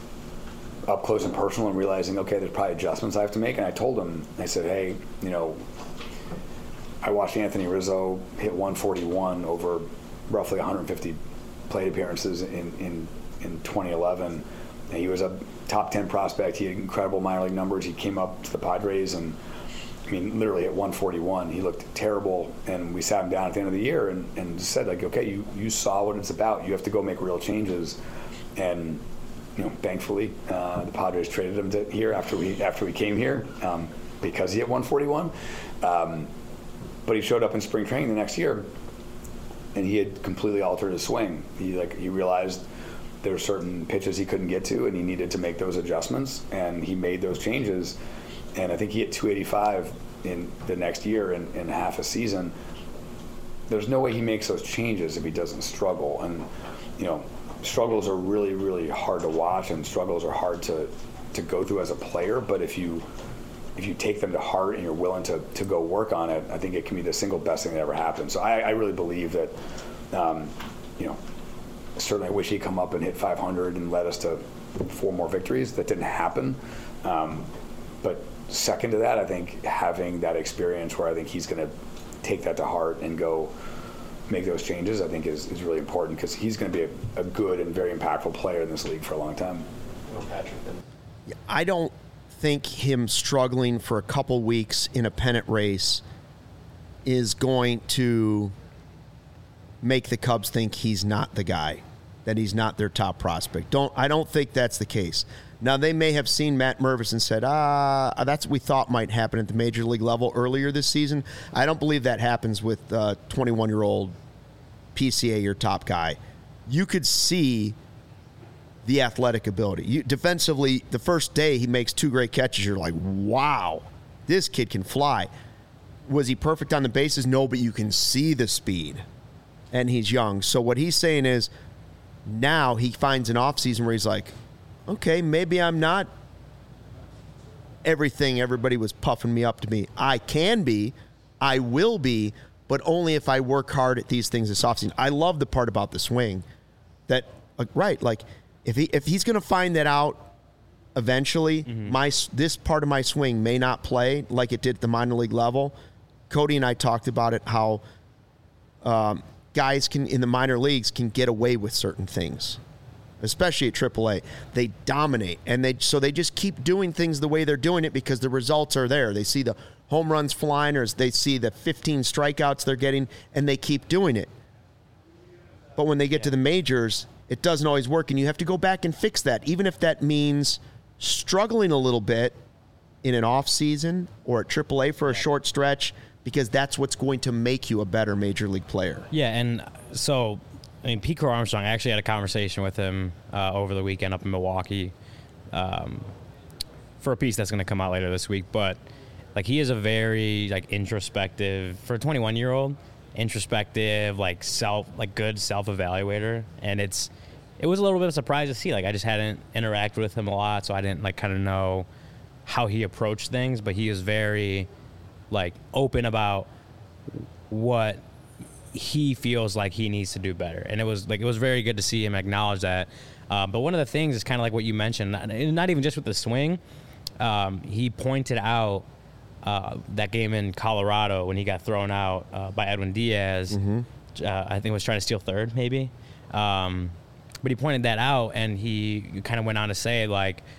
up close and personal and realizing, okay, there's probably adjustments I have to make. And I told him, I said, hey, you know, I watched Anthony Rizzo hit one forty-one over roughly one hundred fifty plate appearances in, in, in twenty eleven. And he was a top ten prospect. He had incredible minor league numbers. He came up to the Padres and, I mean, literally at one forty-one. He looked terrible. And we sat him down at the end of the year and, and said, like, okay, you, you saw what it's about. You have to go make real changes. And, you know, thankfully, uh, the Padres traded him to here after we after we came here um, because he hit one forty-one. Um, But he showed up in spring training the next year, and he had completely altered his swing. He like he realized there were certain pitches he couldn't get to, and he needed to make those adjustments. And he made those changes. And I think he hit two eighty-five in the next year in, in half a season. There's no way he makes those changes if he doesn't struggle. And you know, struggles are really, really hard to watch, and struggles are hard to to go through as a player. But if you if you take them to heart and you're willing to, to go work on it, I think it can be the single best thing that ever happened. So I, I really believe that, um, you know, certainly I wish he'd come up and hit five hundred and led us to four more victories. That didn't happen. Um, but second to that, I think having that experience where I think he's going to take that to heart and go make those changes, I think is, is really important, because he's going to be a, a good and very impactful player in this league for a long time. Well, Patrick, then. I don't think him struggling for a couple weeks in a pennant race is going to make the Cubs think he's not the guy, that he's not their top prospect. Don't I don't think that's the case. Now, they may have seen Matt Mervis and said, ah, that's what we thought might happen at the major league level earlier this season. I don't believe that happens with uh, twenty-one-year-old P C A, your top guy. You could see the athletic ability. You, defensively, the first day he makes two great catches, you're like, wow, this kid can fly. Was he perfect on the bases? No, but you can see the speed, and he's young. So what he's saying is now he finds an offseason where he's like, okay, maybe I'm not everything everybody was puffing me up to be. I can be, I will be, but only if I work hard at these things this offseason. I love the part about the swing that, like, right, like, If he if he's going to find that out eventually, mm-hmm. my this part of my swing may not play like it did at the minor league level. Cody and I talked about it, how um, guys can in the minor leagues can get away with certain things, especially at triple A. They dominate, and they so they just keep doing things the way they're doing it because the results are there. They see the home runs flying, or they see the fifteen strikeouts they're getting, and they keep doing it. But when they get yeah. to the majors, it doesn't always work, and you have to go back and fix that, even if that means struggling a little bit in an off season or at triple A for a short stretch, because that's what's going to make you a better major league player. Yeah, and so, I mean, Pete Crow Armstrong, I actually had a conversation with him uh, over the weekend up in Milwaukee um, for a piece that's going to come out later this week, but like he is a very like introspective, for a twenty-one-year-old, introspective, like self, like good self-evaluator, and it's it was a little bit of a surprise to see. Like, I just hadn't interacted with him a lot, so I didn't like kind of know how he approached things, but he is very like open about what he feels like he needs to do better, and it was like it was very good to see him acknowledge that. Uh, but one of the things is kind of like what you mentioned, not, not even just with the swing. Um, he pointed out Uh, that game in Colorado when he got thrown out uh, by Edwin Diaz. Mm-hmm. Uh, I think was trying to steal third, maybe. Um, but he pointed that out, and he kind of went on to say, like,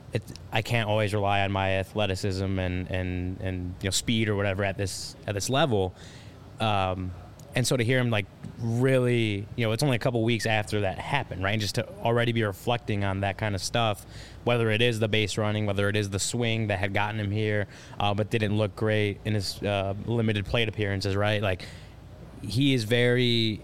it, I can't always rely on my athleticism and, and, and you know speed or whatever at this at this level. Um, and so to hear him like really, you know, it's only a couple weeks after that happened, right? And just to already be reflecting on that kind of stuff, whether it is the base running, whether it is the swing that had gotten him here, uh, but didn't look great in his uh, limited plate appearances, right? Like he is very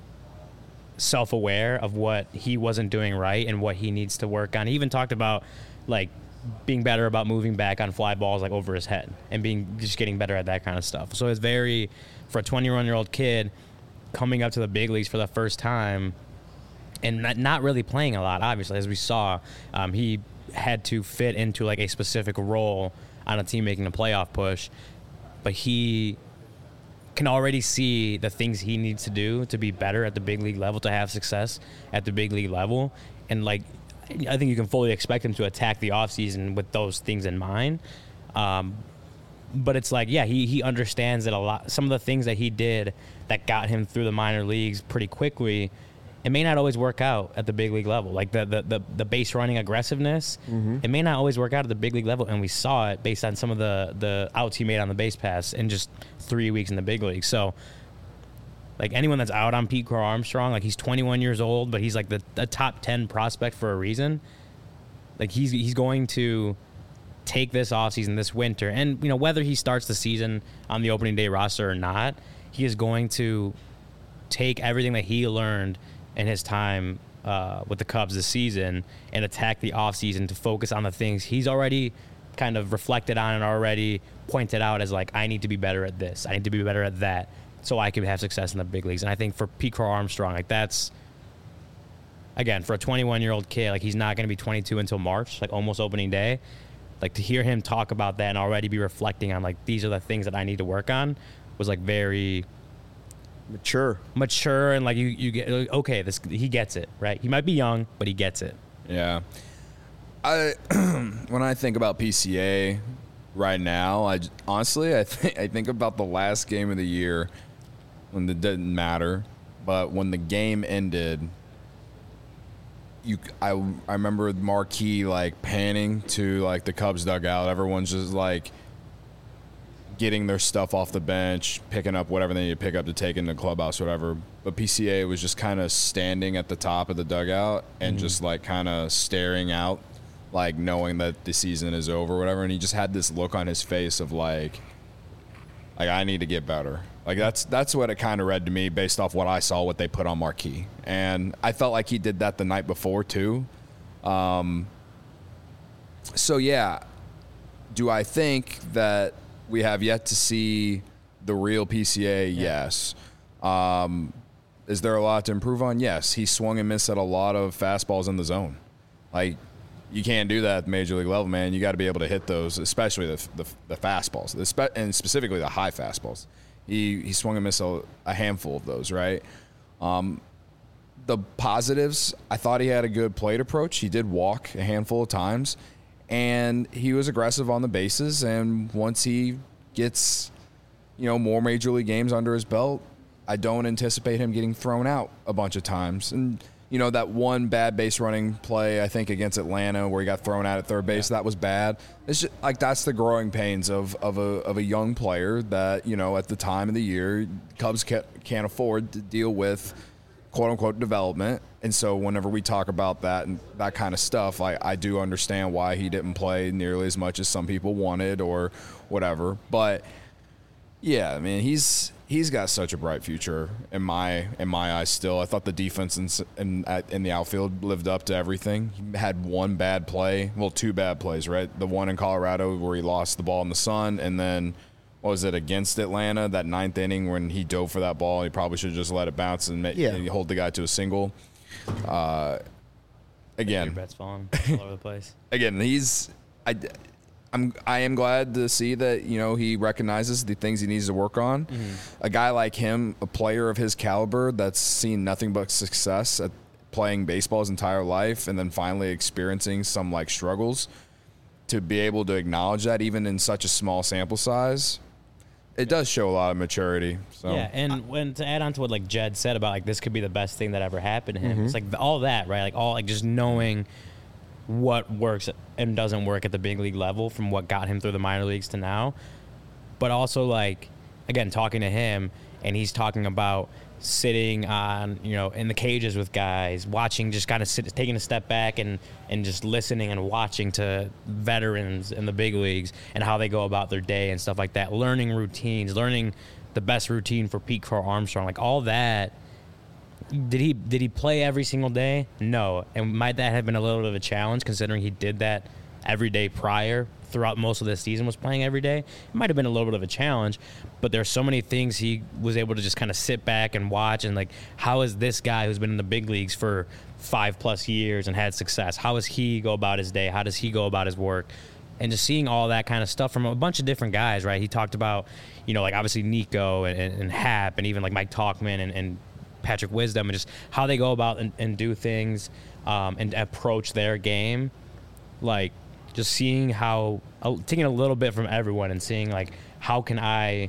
self-aware of what he wasn't doing right and what he needs to work on. He even talked about like being better about moving back on fly balls like over his head and being just getting better at that kind of stuff. So it's very, for a twenty-one-year-old kid coming up to the big leagues for the first time and not, not really playing a lot, obviously, as we saw, um, he had to fit into like a specific role on a team making a playoff push, but he can already see the things he needs to do to be better at the big league level, to have success at the big league level. And like, I think you can fully expect him to attack the offseason with those things in mind. Um, but it's like, yeah, he, he understands that a lot, some of the things that he did that got him through the minor leagues pretty quickly, it may not always work out at the big league level. Like the, the, the, the base running aggressiveness, mm-hmm. it may not always work out at the big league level. And we saw it based on some of the, the outs he made on the base pass in just three weeks in the big league. So like anyone that's out on Pete Crow Armstrong, like he's twenty-one years old, but he's like the, the top ten prospect for a reason. Like he's, he's going to take this offseason, this winter, and you know, whether he starts the season on the opening day roster or not, he is going to take everything that he learned in his time uh, with the Cubs this season and attack the offseason to focus on the things he's already kind of reflected on and already pointed out as like, I need to be better at this. I need to be better at that so I can have success in the big leagues. And I think for Pete Crow Armstrong, like that's, again, for a twenty-one-year-old kid, like he's not going to be twenty-two until March, like almost opening day. Like to hear him talk about that and already be reflecting on like, these are the things that I need to work on was like very mature, mature, and like you, you get okay. This he gets it, right? He might be young, but he gets it. Yeah. I when I think about P C A right now, I honestly I think I think about the last game of the year when it didn't matter, but when the game ended, you I I remember Marquee like panning to like the Cubs dugout. Everyone's just like getting their stuff off the bench, picking up whatever they need to pick up to take in the clubhouse or whatever. But P C A was just kind of standing at the top of the dugout and mm-hmm. just like kind of staring out, like knowing that the season is over or whatever. And he just had this look on his face of like, like I need to get better. Like that's that's what it kind of read to me based off what I saw, what they put on Marquee. And I felt like he did that the night before too. Um, so yeah, do I think that we have yet to see the real P C A? Yeah. Yes. Um, is there a lot to improve on? Yes. He swung and missed at a lot of fastballs in the zone. Like, you can't do that at the major league level, man. You got to be able to hit those, especially the the, the fastballs, the spe- and specifically the high fastballs. He he swung and missed a, a handful of those, right? Um, the positives, I thought he had a good plate approach. He did walk a handful of times. And he was aggressive on the bases, and once he gets, you know, more major league games under his belt, I don't anticipate him getting thrown out a bunch of times. And, you know, that one bad base running play, I think, against Atlanta where he got thrown out at third base, yeah. that was bad. It's just, like, that's the growing pains of, of, a, of a young player that, you know, at the time of the year, Cubs can't, can't afford to deal with, quote-unquote, development. And so whenever we talk about that and that kind of stuff, I, I do understand why he didn't play nearly as much as some people wanted or whatever. But, yeah, I mean, he's he's got such a bright future in my in my eyes still. I thought the defense in, in, in the outfield lived up to everything. He had one bad play. Well, two bad plays, right? The one in Colorado where he lost the ball in the sun, and then – what was it, against Atlanta, that ninth inning when he dove for that ball. He probably should have just let it bounce and make, yeah. you know, hold the guy to a single. Uh, again. Your bet's falling all over the place. Again, he's I, I'm, I am glad to see that, you know, he recognizes the things he needs to work on. Mm-hmm. A guy like him, a player of his caliber that's seen nothing but success at playing baseball his entire life and then finally experiencing some, like, struggles, to be able to acknowledge that even in such a small sample size – it does show a lot of maturity. So. Yeah, and when to add on to what like Jed said about like this could be the best thing that ever happened to him. Mm-hmm. It's like all that, right? Like all like just knowing what works and doesn't work at the big league level from what got him through the minor leagues to now. But also, like, again, talking to him, and he's talking about sitting on, you know, in the cages with guys, watching, just kind of sit, taking a step back and, and just listening and watching to veterans in the big leagues and how they go about their day and stuff like that, learning routines, learning the best routine for Pete Crow Armstrong, like all that. Did he did he play every single day? No. And might that have been a little bit of a challenge considering he did that every day prior throughout most of the season, was playing every day? It might have been a little bit of a challenge, but there's so many things he was able to just kind of sit back and watch, and like, how is this guy who's been in the big leagues for five plus years and had success, how does he go about his day? How does he go about his work? And just seeing all that kind of stuff from a bunch of different guys, right? He talked about, you know, like obviously Nico and, and, and Hap and even like Mike Talkman and, and Patrick Wisdom, and just how they go about and, and do things um, and approach their game. Like, just seeing how, uh, taking a little bit from everyone and seeing, like, how can I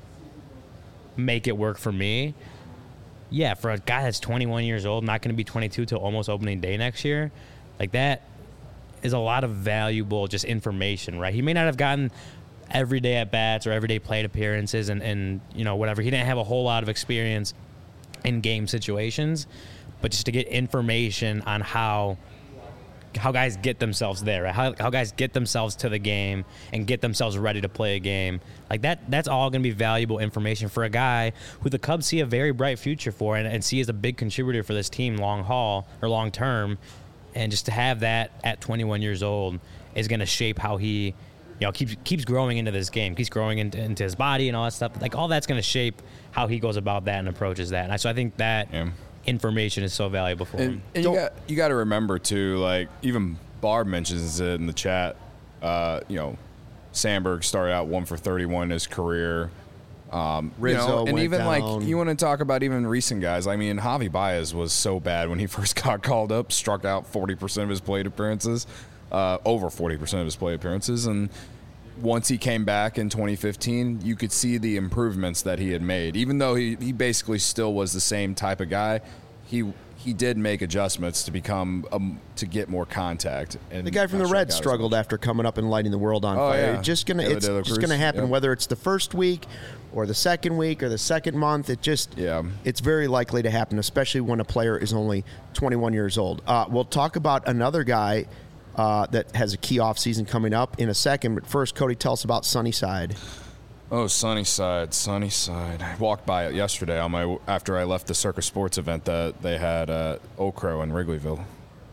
make it work for me? Yeah, for a guy that's twenty-one years old, not going to be twenty-two till almost opening day next year, like, that is a lot of valuable just information, right? He may not have gotten everyday at-bats or everyday plate appearances and, and, you know, whatever. He didn't have a whole lot of experience in game situations, but just to get information on how how guys get themselves there, right? How, how guys get themselves to the game and get themselves ready to play a game. Like that, that's all going to be valuable information for a guy who the Cubs see a very bright future for and, and see as a big contributor for this team long haul or long term. And just to have that at twenty-one years old is going to shape how he, you know, keeps keeps growing into this game, keeps growing into, into his body and all that stuff. Like, all that's going to shape how he goes about that and approaches that. And I, so I think that yeah. information is so valuable for and, him. And you got you got to remember too, like even Barb mentions it in the chat. Uh, you know, Sandberg started out one for thirty-one in his career. Um, Rizzo you know, and went even down. like you want to talk about even recent guys. I mean, Javi Baez was so bad when he first got called up, struck out forty percent of his plate appearances, uh, over forty percent of his plate appearances, and once he came back in twenty fifteen, you could see the improvements that he had made. Even though he, he basically still was the same type of guy, he he did make adjustments to become um, to get more contact. And the guy from the Reds struggled after coming up and lighting the world on oh, fire. Yeah. It's just gonna Taylor it's De La just Cruz. gonna happen Yep. whether it's the first week or the second week or the second month. It just Yeah. it's very likely to happen, especially when a player is only twenty-one years old. Uh, we'll talk about another guy Uh, that has a key off season coming up in a second. But first, Cody, tell us about Sunnyside. Oh, Sunnyside, Sunnyside. I walked by it yesterday on my after I left the Circus Sports event that they had at Oak Crow in Wrigleyville.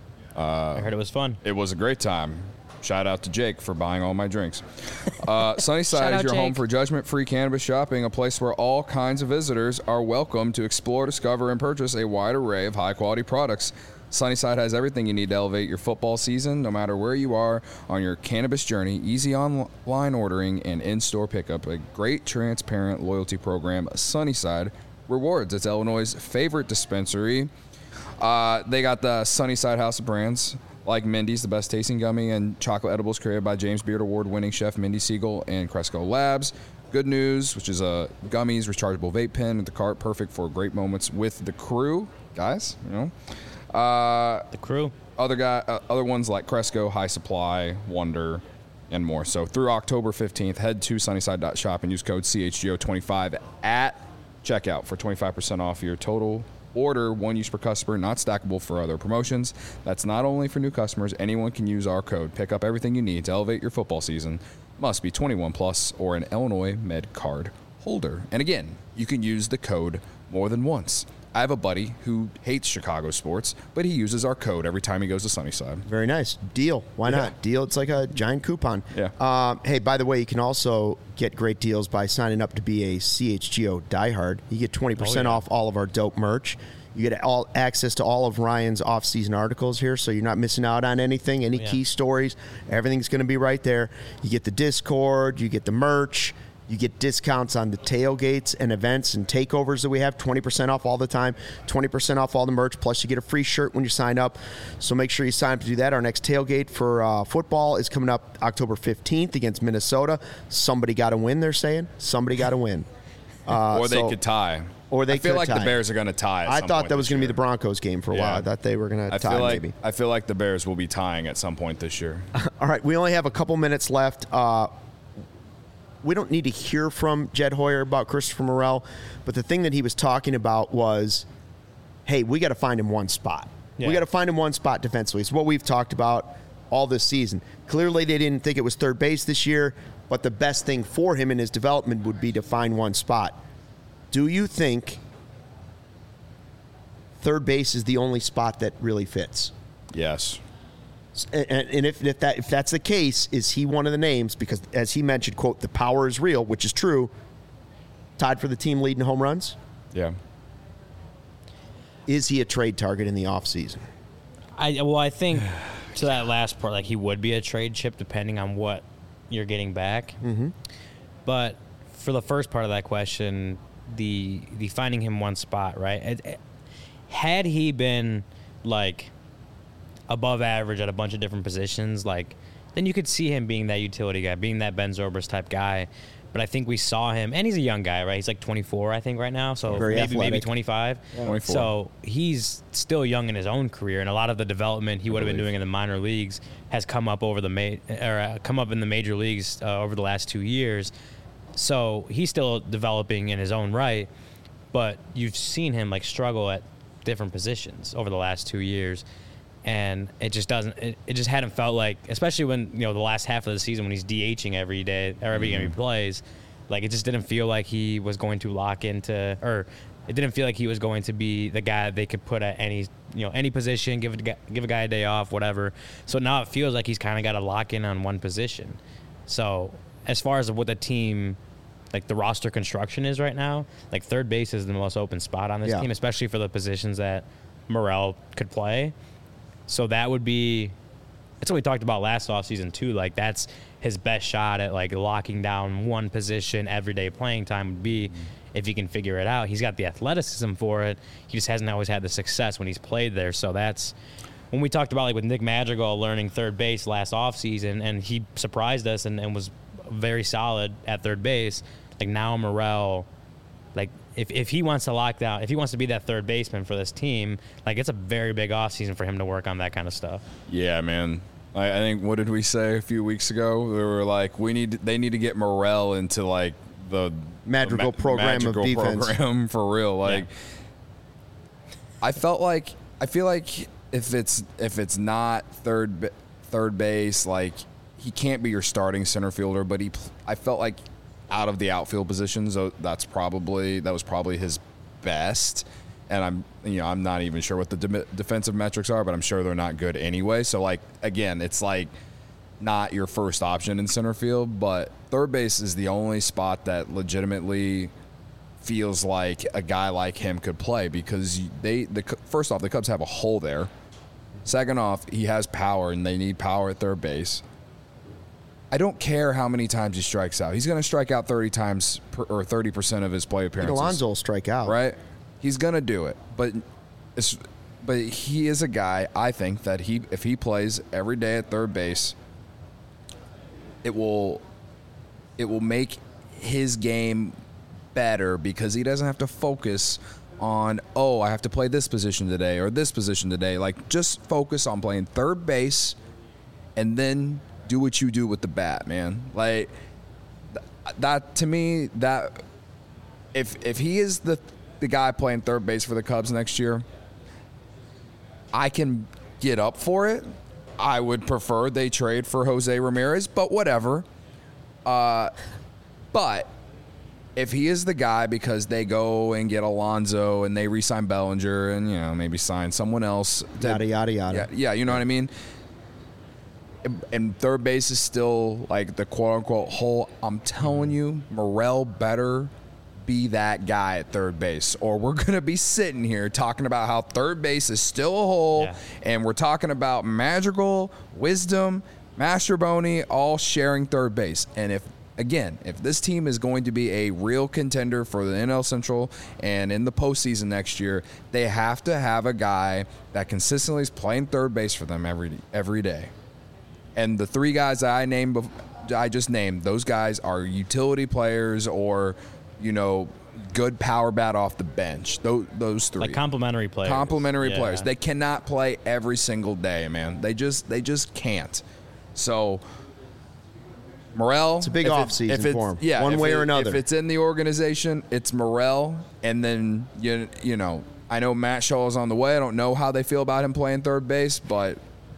I heard it was fun. It was a great time. Shout out to Jake for buying all my drinks. Uh, Sunnyside Shout is out, your home Jake. for judgment-free cannabis shopping, a place where all kinds of visitors are welcome to explore, discover, and purchase a wide array of high-quality products. Sunnyside has everything you need to elevate your football season, no matter where you are on your cannabis journey. Easy online ordering and in-store pickup. A great, transparent loyalty program. Sunnyside Rewards. It's Illinois' favorite dispensary. Uh, they got the Sunnyside House of Brands, like Mindy's, the best tasting gummy and chocolate edibles created by James Beard Award-winning chef Mindy Siegel and Cresco Labs. Good News, which is a gummies rechargeable vape pen at the cart, perfect for great moments with the crew, guys. You know. Uh, The crew. other guy, uh, other ones like Cresco, High Supply, Wonder, and more. So through October fifteenth, head to sunnyside dot shop and use code C H G O twenty-five at checkout for twenty-five percent off your total order. One use per customer, not stackable for other promotions. That's not only for new customers. Anyone can use our code. Pick up everything you need to elevate your football season. Must be twenty-one plus or an Illinois Med card holder. And again, you can use the code more than once. I have a buddy who hates Chicago sports, but he uses our code every time he goes to Sunnyside. Very nice. Deal. Why Yeah. not? Deal. It's like a giant coupon. Yeah. Um, hey, by the way, you can also get great deals by signing up to be a C H G O diehard. You get twenty percent Oh, yeah. off all of our dope merch. You get all access to all of Ryan's off-season articles here, so you're not missing out on anything, any Yeah. key stories. Everything's going to be right there. You get the Discord. You get the merch. You get discounts on the tailgates and events and takeovers that we have, twenty percent off all the time, twenty percent off all the merch, plus you get a free shirt when you sign up. So make sure you sign up to do that. Our next tailgate for uh, football is coming up October fifteenth against Minnesota. Somebody got to win, they're saying. Somebody got to win. Uh, or they so- could tie. Or they I feel could like tie. the Bears are going to tie. At I some thought point that was this going to be year. the Broncos game for a Yeah. while. I thought they were going to I tie feel like maybe. I feel like the Bears will be tying at some point this year. All right, we only have a couple minutes left. Uh, we don't need to hear from Jed Hoyer about Christopher Morel, but the thing that he was talking about was, hey, we got to find him one spot. Yeah. We got to find him one spot defensively. It's what we've talked about all this season. Clearly, they didn't think it was third base this year, but the best thing for him in his development would be to find one spot. Do you think third base is the only spot that really fits? Yes. And, and if, if that if that's the case, is he one of the names? Because as he mentioned, quote, the power is real, which is true. Tied for the team lead in home runs. Yeah. Is he a trade target in the offseason? I well, I think to that last part, like he would be a trade chip depending on what you're getting back. Mm-hmm. But for the first part of that question, the the finding him one spot, right? It, it, had he been like above average at a bunch of different positions, like then you could see him being that utility guy, being that Ben Zobrist type guy. But I think we saw him, and he's a young guy, right? He's like twenty-four, I think, right now. So Very maybe athletic. maybe twenty-five. twenty-four. So he's still young in his own career, and a lot of the development he would have been doing in the minor leagues has come up over the ma- or uh, come up in the major leagues uh, over the last two years. So he's still developing in his own right, but you've seen him like struggle at different positions over the last two years. And it just doesn't. It, it just hadn't felt like, especially when you know the last half of the season when he's DHing every day or every game he plays, like it just didn't feel like he was going to lock into, or it didn't feel like he was going to be the guy that they could put at any you know any position, give a, give a guy a day off, whatever. So now it feels like he's kind of got to lock in on one position. So as far as what the team, like the roster construction is right now, like third base is the most open spot on this Yeah. team, especially for the positions that Morel could play. So that would be, that's what we talked about last offseason too. Like that's his best shot at like locking down one position everyday playing time would be mm-hmm. if he can figure it out. He's got the athleticism for it. He just hasn't always had the success when he's played there. So that's when we talked about like with Nick Madrigal learning third base last offseason, and he surprised us and, and was very solid at third base. Like now Morel, like if, if he wants to lock down, if he wants to be that third baseman for this team, like it's a very big offseason for him to work on that kind of stuff. Yeah, man. I, I think, what did we say a few weeks ago? We were like, we need, they need to get Morel into like the Madrigal the ma- program Madrigal of defense. program for real. Like, Yeah. I felt like, I feel like if it's, if it's not third, ba- third base, like he can't be your starting center fielder, but he, pl- I felt like out of the outfield positions, so that's probably, that was probably his best. And I'm, you know, I'm not even sure what the de- defensive metrics are, but I'm sure they're not good anyway. So, like, again, it's like not your first option in center field, but third base is the only spot that legitimately feels like a guy like him could play because they, the first off, the Cubs have a hole there. Second off, he has power, and they need power at third base. I don't care how many times he strikes out. He's going to strike out thirty times per, or thirty percent of his play appearances. Alonso will strike out. Right? He's going to do it. But it's, but he is a guy, I think, that he if he plays every day at third base, it will it will make his game better because he doesn't have to focus on, oh, I have to play this position today or this position today. Like, just focus on playing third base and then do what you do with the bat, man. Like th- that to me, that if if he is the the guy playing third base for the Cubs next year, I can get up for it. I would prefer they trade for Jose Ramirez, but whatever. Uh, but if he is the guy because they go and get Alonso and they re-sign Bellinger and, you know, maybe sign someone else, to, Yada, yada, yada. Yeah, yeah, you know what I mean. And third base is still like the quote unquote hole. I'm telling you, Morel better be that guy at third base, or we're gonna be sitting here talking about how third base is still a hole, Yeah. and we're talking about Madrigal, Wisdom, Mastroboni all sharing third base. And if again, if this team is going to be a real contender for the N L Central and in the postseason next year, they have to have a guy that consistently is playing third base for them every every day. And the three guys that I named, I just named, those guys are utility players or, you know, good power bat off the bench. Those, those three. Like complimentary players. Complimentary Yeah. players. They cannot play every single day, man. They just they just can't. So Morel, It's a big if it- offseason if it's- for him, Yeah, one if way it- or another. If it's in the organization, it's Morel, and then you you know I know Matt Shaw is on the way. I don't know how they feel about him playing third base, but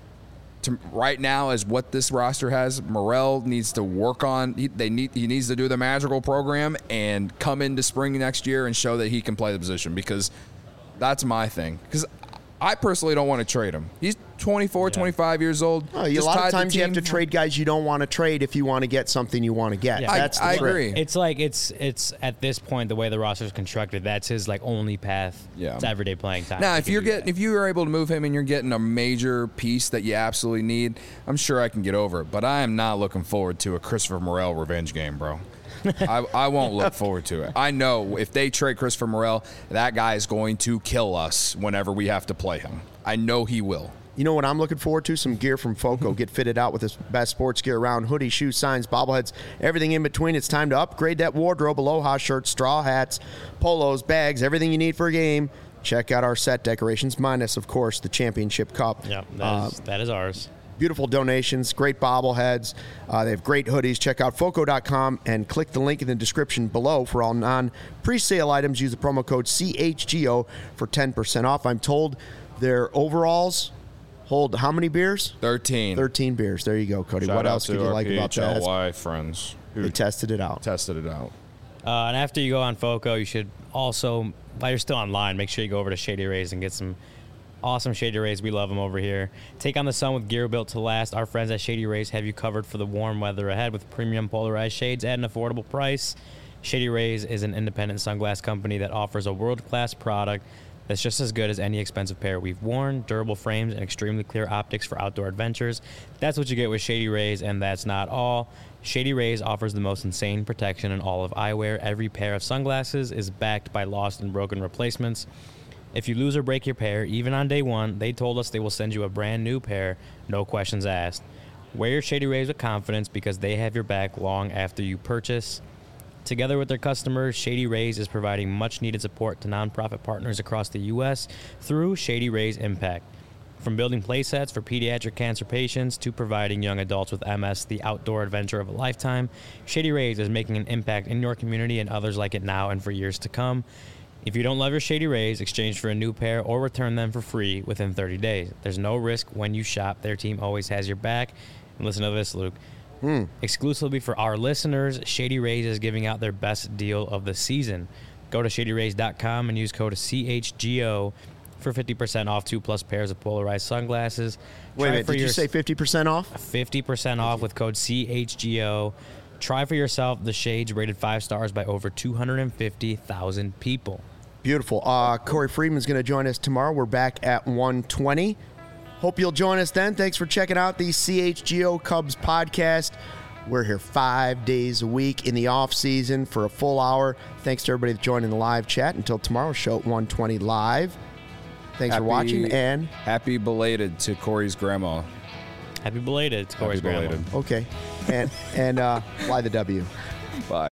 to, right now, as what this roster has, Morel needs to work on. He, they need he needs to do the magical program and come into spring next year and show that he can play the position, because that's my thing. Because I personally don't want to trade him. He's twenty-four, Yeah. twenty-five years old. Oh, you- a Just lot tied of the times you have to team- trade guys you don't want to trade if you want to get something you want to get. Yeah. I, That's the I trick. agree. It's like it's it's at this point the way the roster is constructed. That's his like only path Yeah. to everyday playing time. Now, He if can you're do getting, that. if you are able to move him and you're getting a major piece that you absolutely need, I'm sure I can get over it. But I am not looking forward to a Christopher Morel revenge game, bro. I, I won't look forward to it. I know if they trade Christopher Morel, that guy is going to kill us whenever we have to play him. I know he will. You know what I'm looking forward to? Some gear from Foco. Get fitted out with this best sports gear around. Hoodies, shoes, signs, bobbleheads, everything in between. It's time to upgrade that wardrobe. Aloha shirts, straw hats, polos, bags, everything you need for a game. Check out our set decorations, minus, of course, the championship cup. yeah, that Uh, is, that is ours. Beautiful donations, great bobbleheads. Uh, they have great hoodies. Check out foco dot com and click the link in the description below for all non-presale items. Use the promo code C H G O for ten percent off. I'm told their overalls hold how many beers? thirteen. thirteen beers. There you go, Cody. Shout what out else to could you our like about P H that? L Y friends who They tested it out. tested it out. Uh, and after you go on Foco, you should also, while you're still online, make sure you go over to Shady Rays and get some awesome Shady Rays. We love them over here. Take on the sun with gear built to last. Our friends at Shady Rays have you covered for the warm weather ahead with premium polarized shades at an affordable price. Shady Rays is an independent sunglass company that offers a world-class product that's just as good as any expensive pair we've worn. Durable frames and extremely clear optics for outdoor adventures. That's what you get with Shady Rays, and that's not all. Shady Rays offers the most insane protection in all of eyewear. Every pair of sunglasses is backed by lost and broken replacements. If you lose or break your pair, even on day one, they told us they will send you a brand new pair, no questions asked. Wear your Shady Rays with confidence because they have your back long after you purchase. Together with their customers, Shady Rays is providing much-needed support to nonprofit partners across the U S through Shady Rays Impact. From building playsets for pediatric cancer patients to providing young adults with M S the outdoor adventure of a lifetime, Shady Rays is making an impact in your community and others like it now and for years to come. If you don't love your Shady Rays, exchange for a new pair or return them for free within thirty days. There's no risk when you shop. Their team always has your back. And listen to this, Luke. Hmm. Exclusively for our listeners, Shady Rays is giving out their best deal of the season. Go to shady rays dot com and use code C H G O for fifty percent off two plus pairs of polarized sunglasses. Wait a Try minute. for Did you your- say fifty percent off? fifty percent off with code C H G O. Try for yourself the shades rated five stars by over two hundred fifty thousand people. Beautiful. Uh, Corey Friedman's going to join us tomorrow. We're back at one twenty. Hope you'll join us then. Thanks for checking out the C H G O Cubs podcast. We're here five days a week in the off season for a full hour. Thanks to everybody that's joining the live chat. Until tomorrow, show at one twenty live. Thanks for watching, and happy belated to Corey's grandma. Happy belated. It's Corey's Happy grandma. belated. okay, and and uh, fly the W. Bye.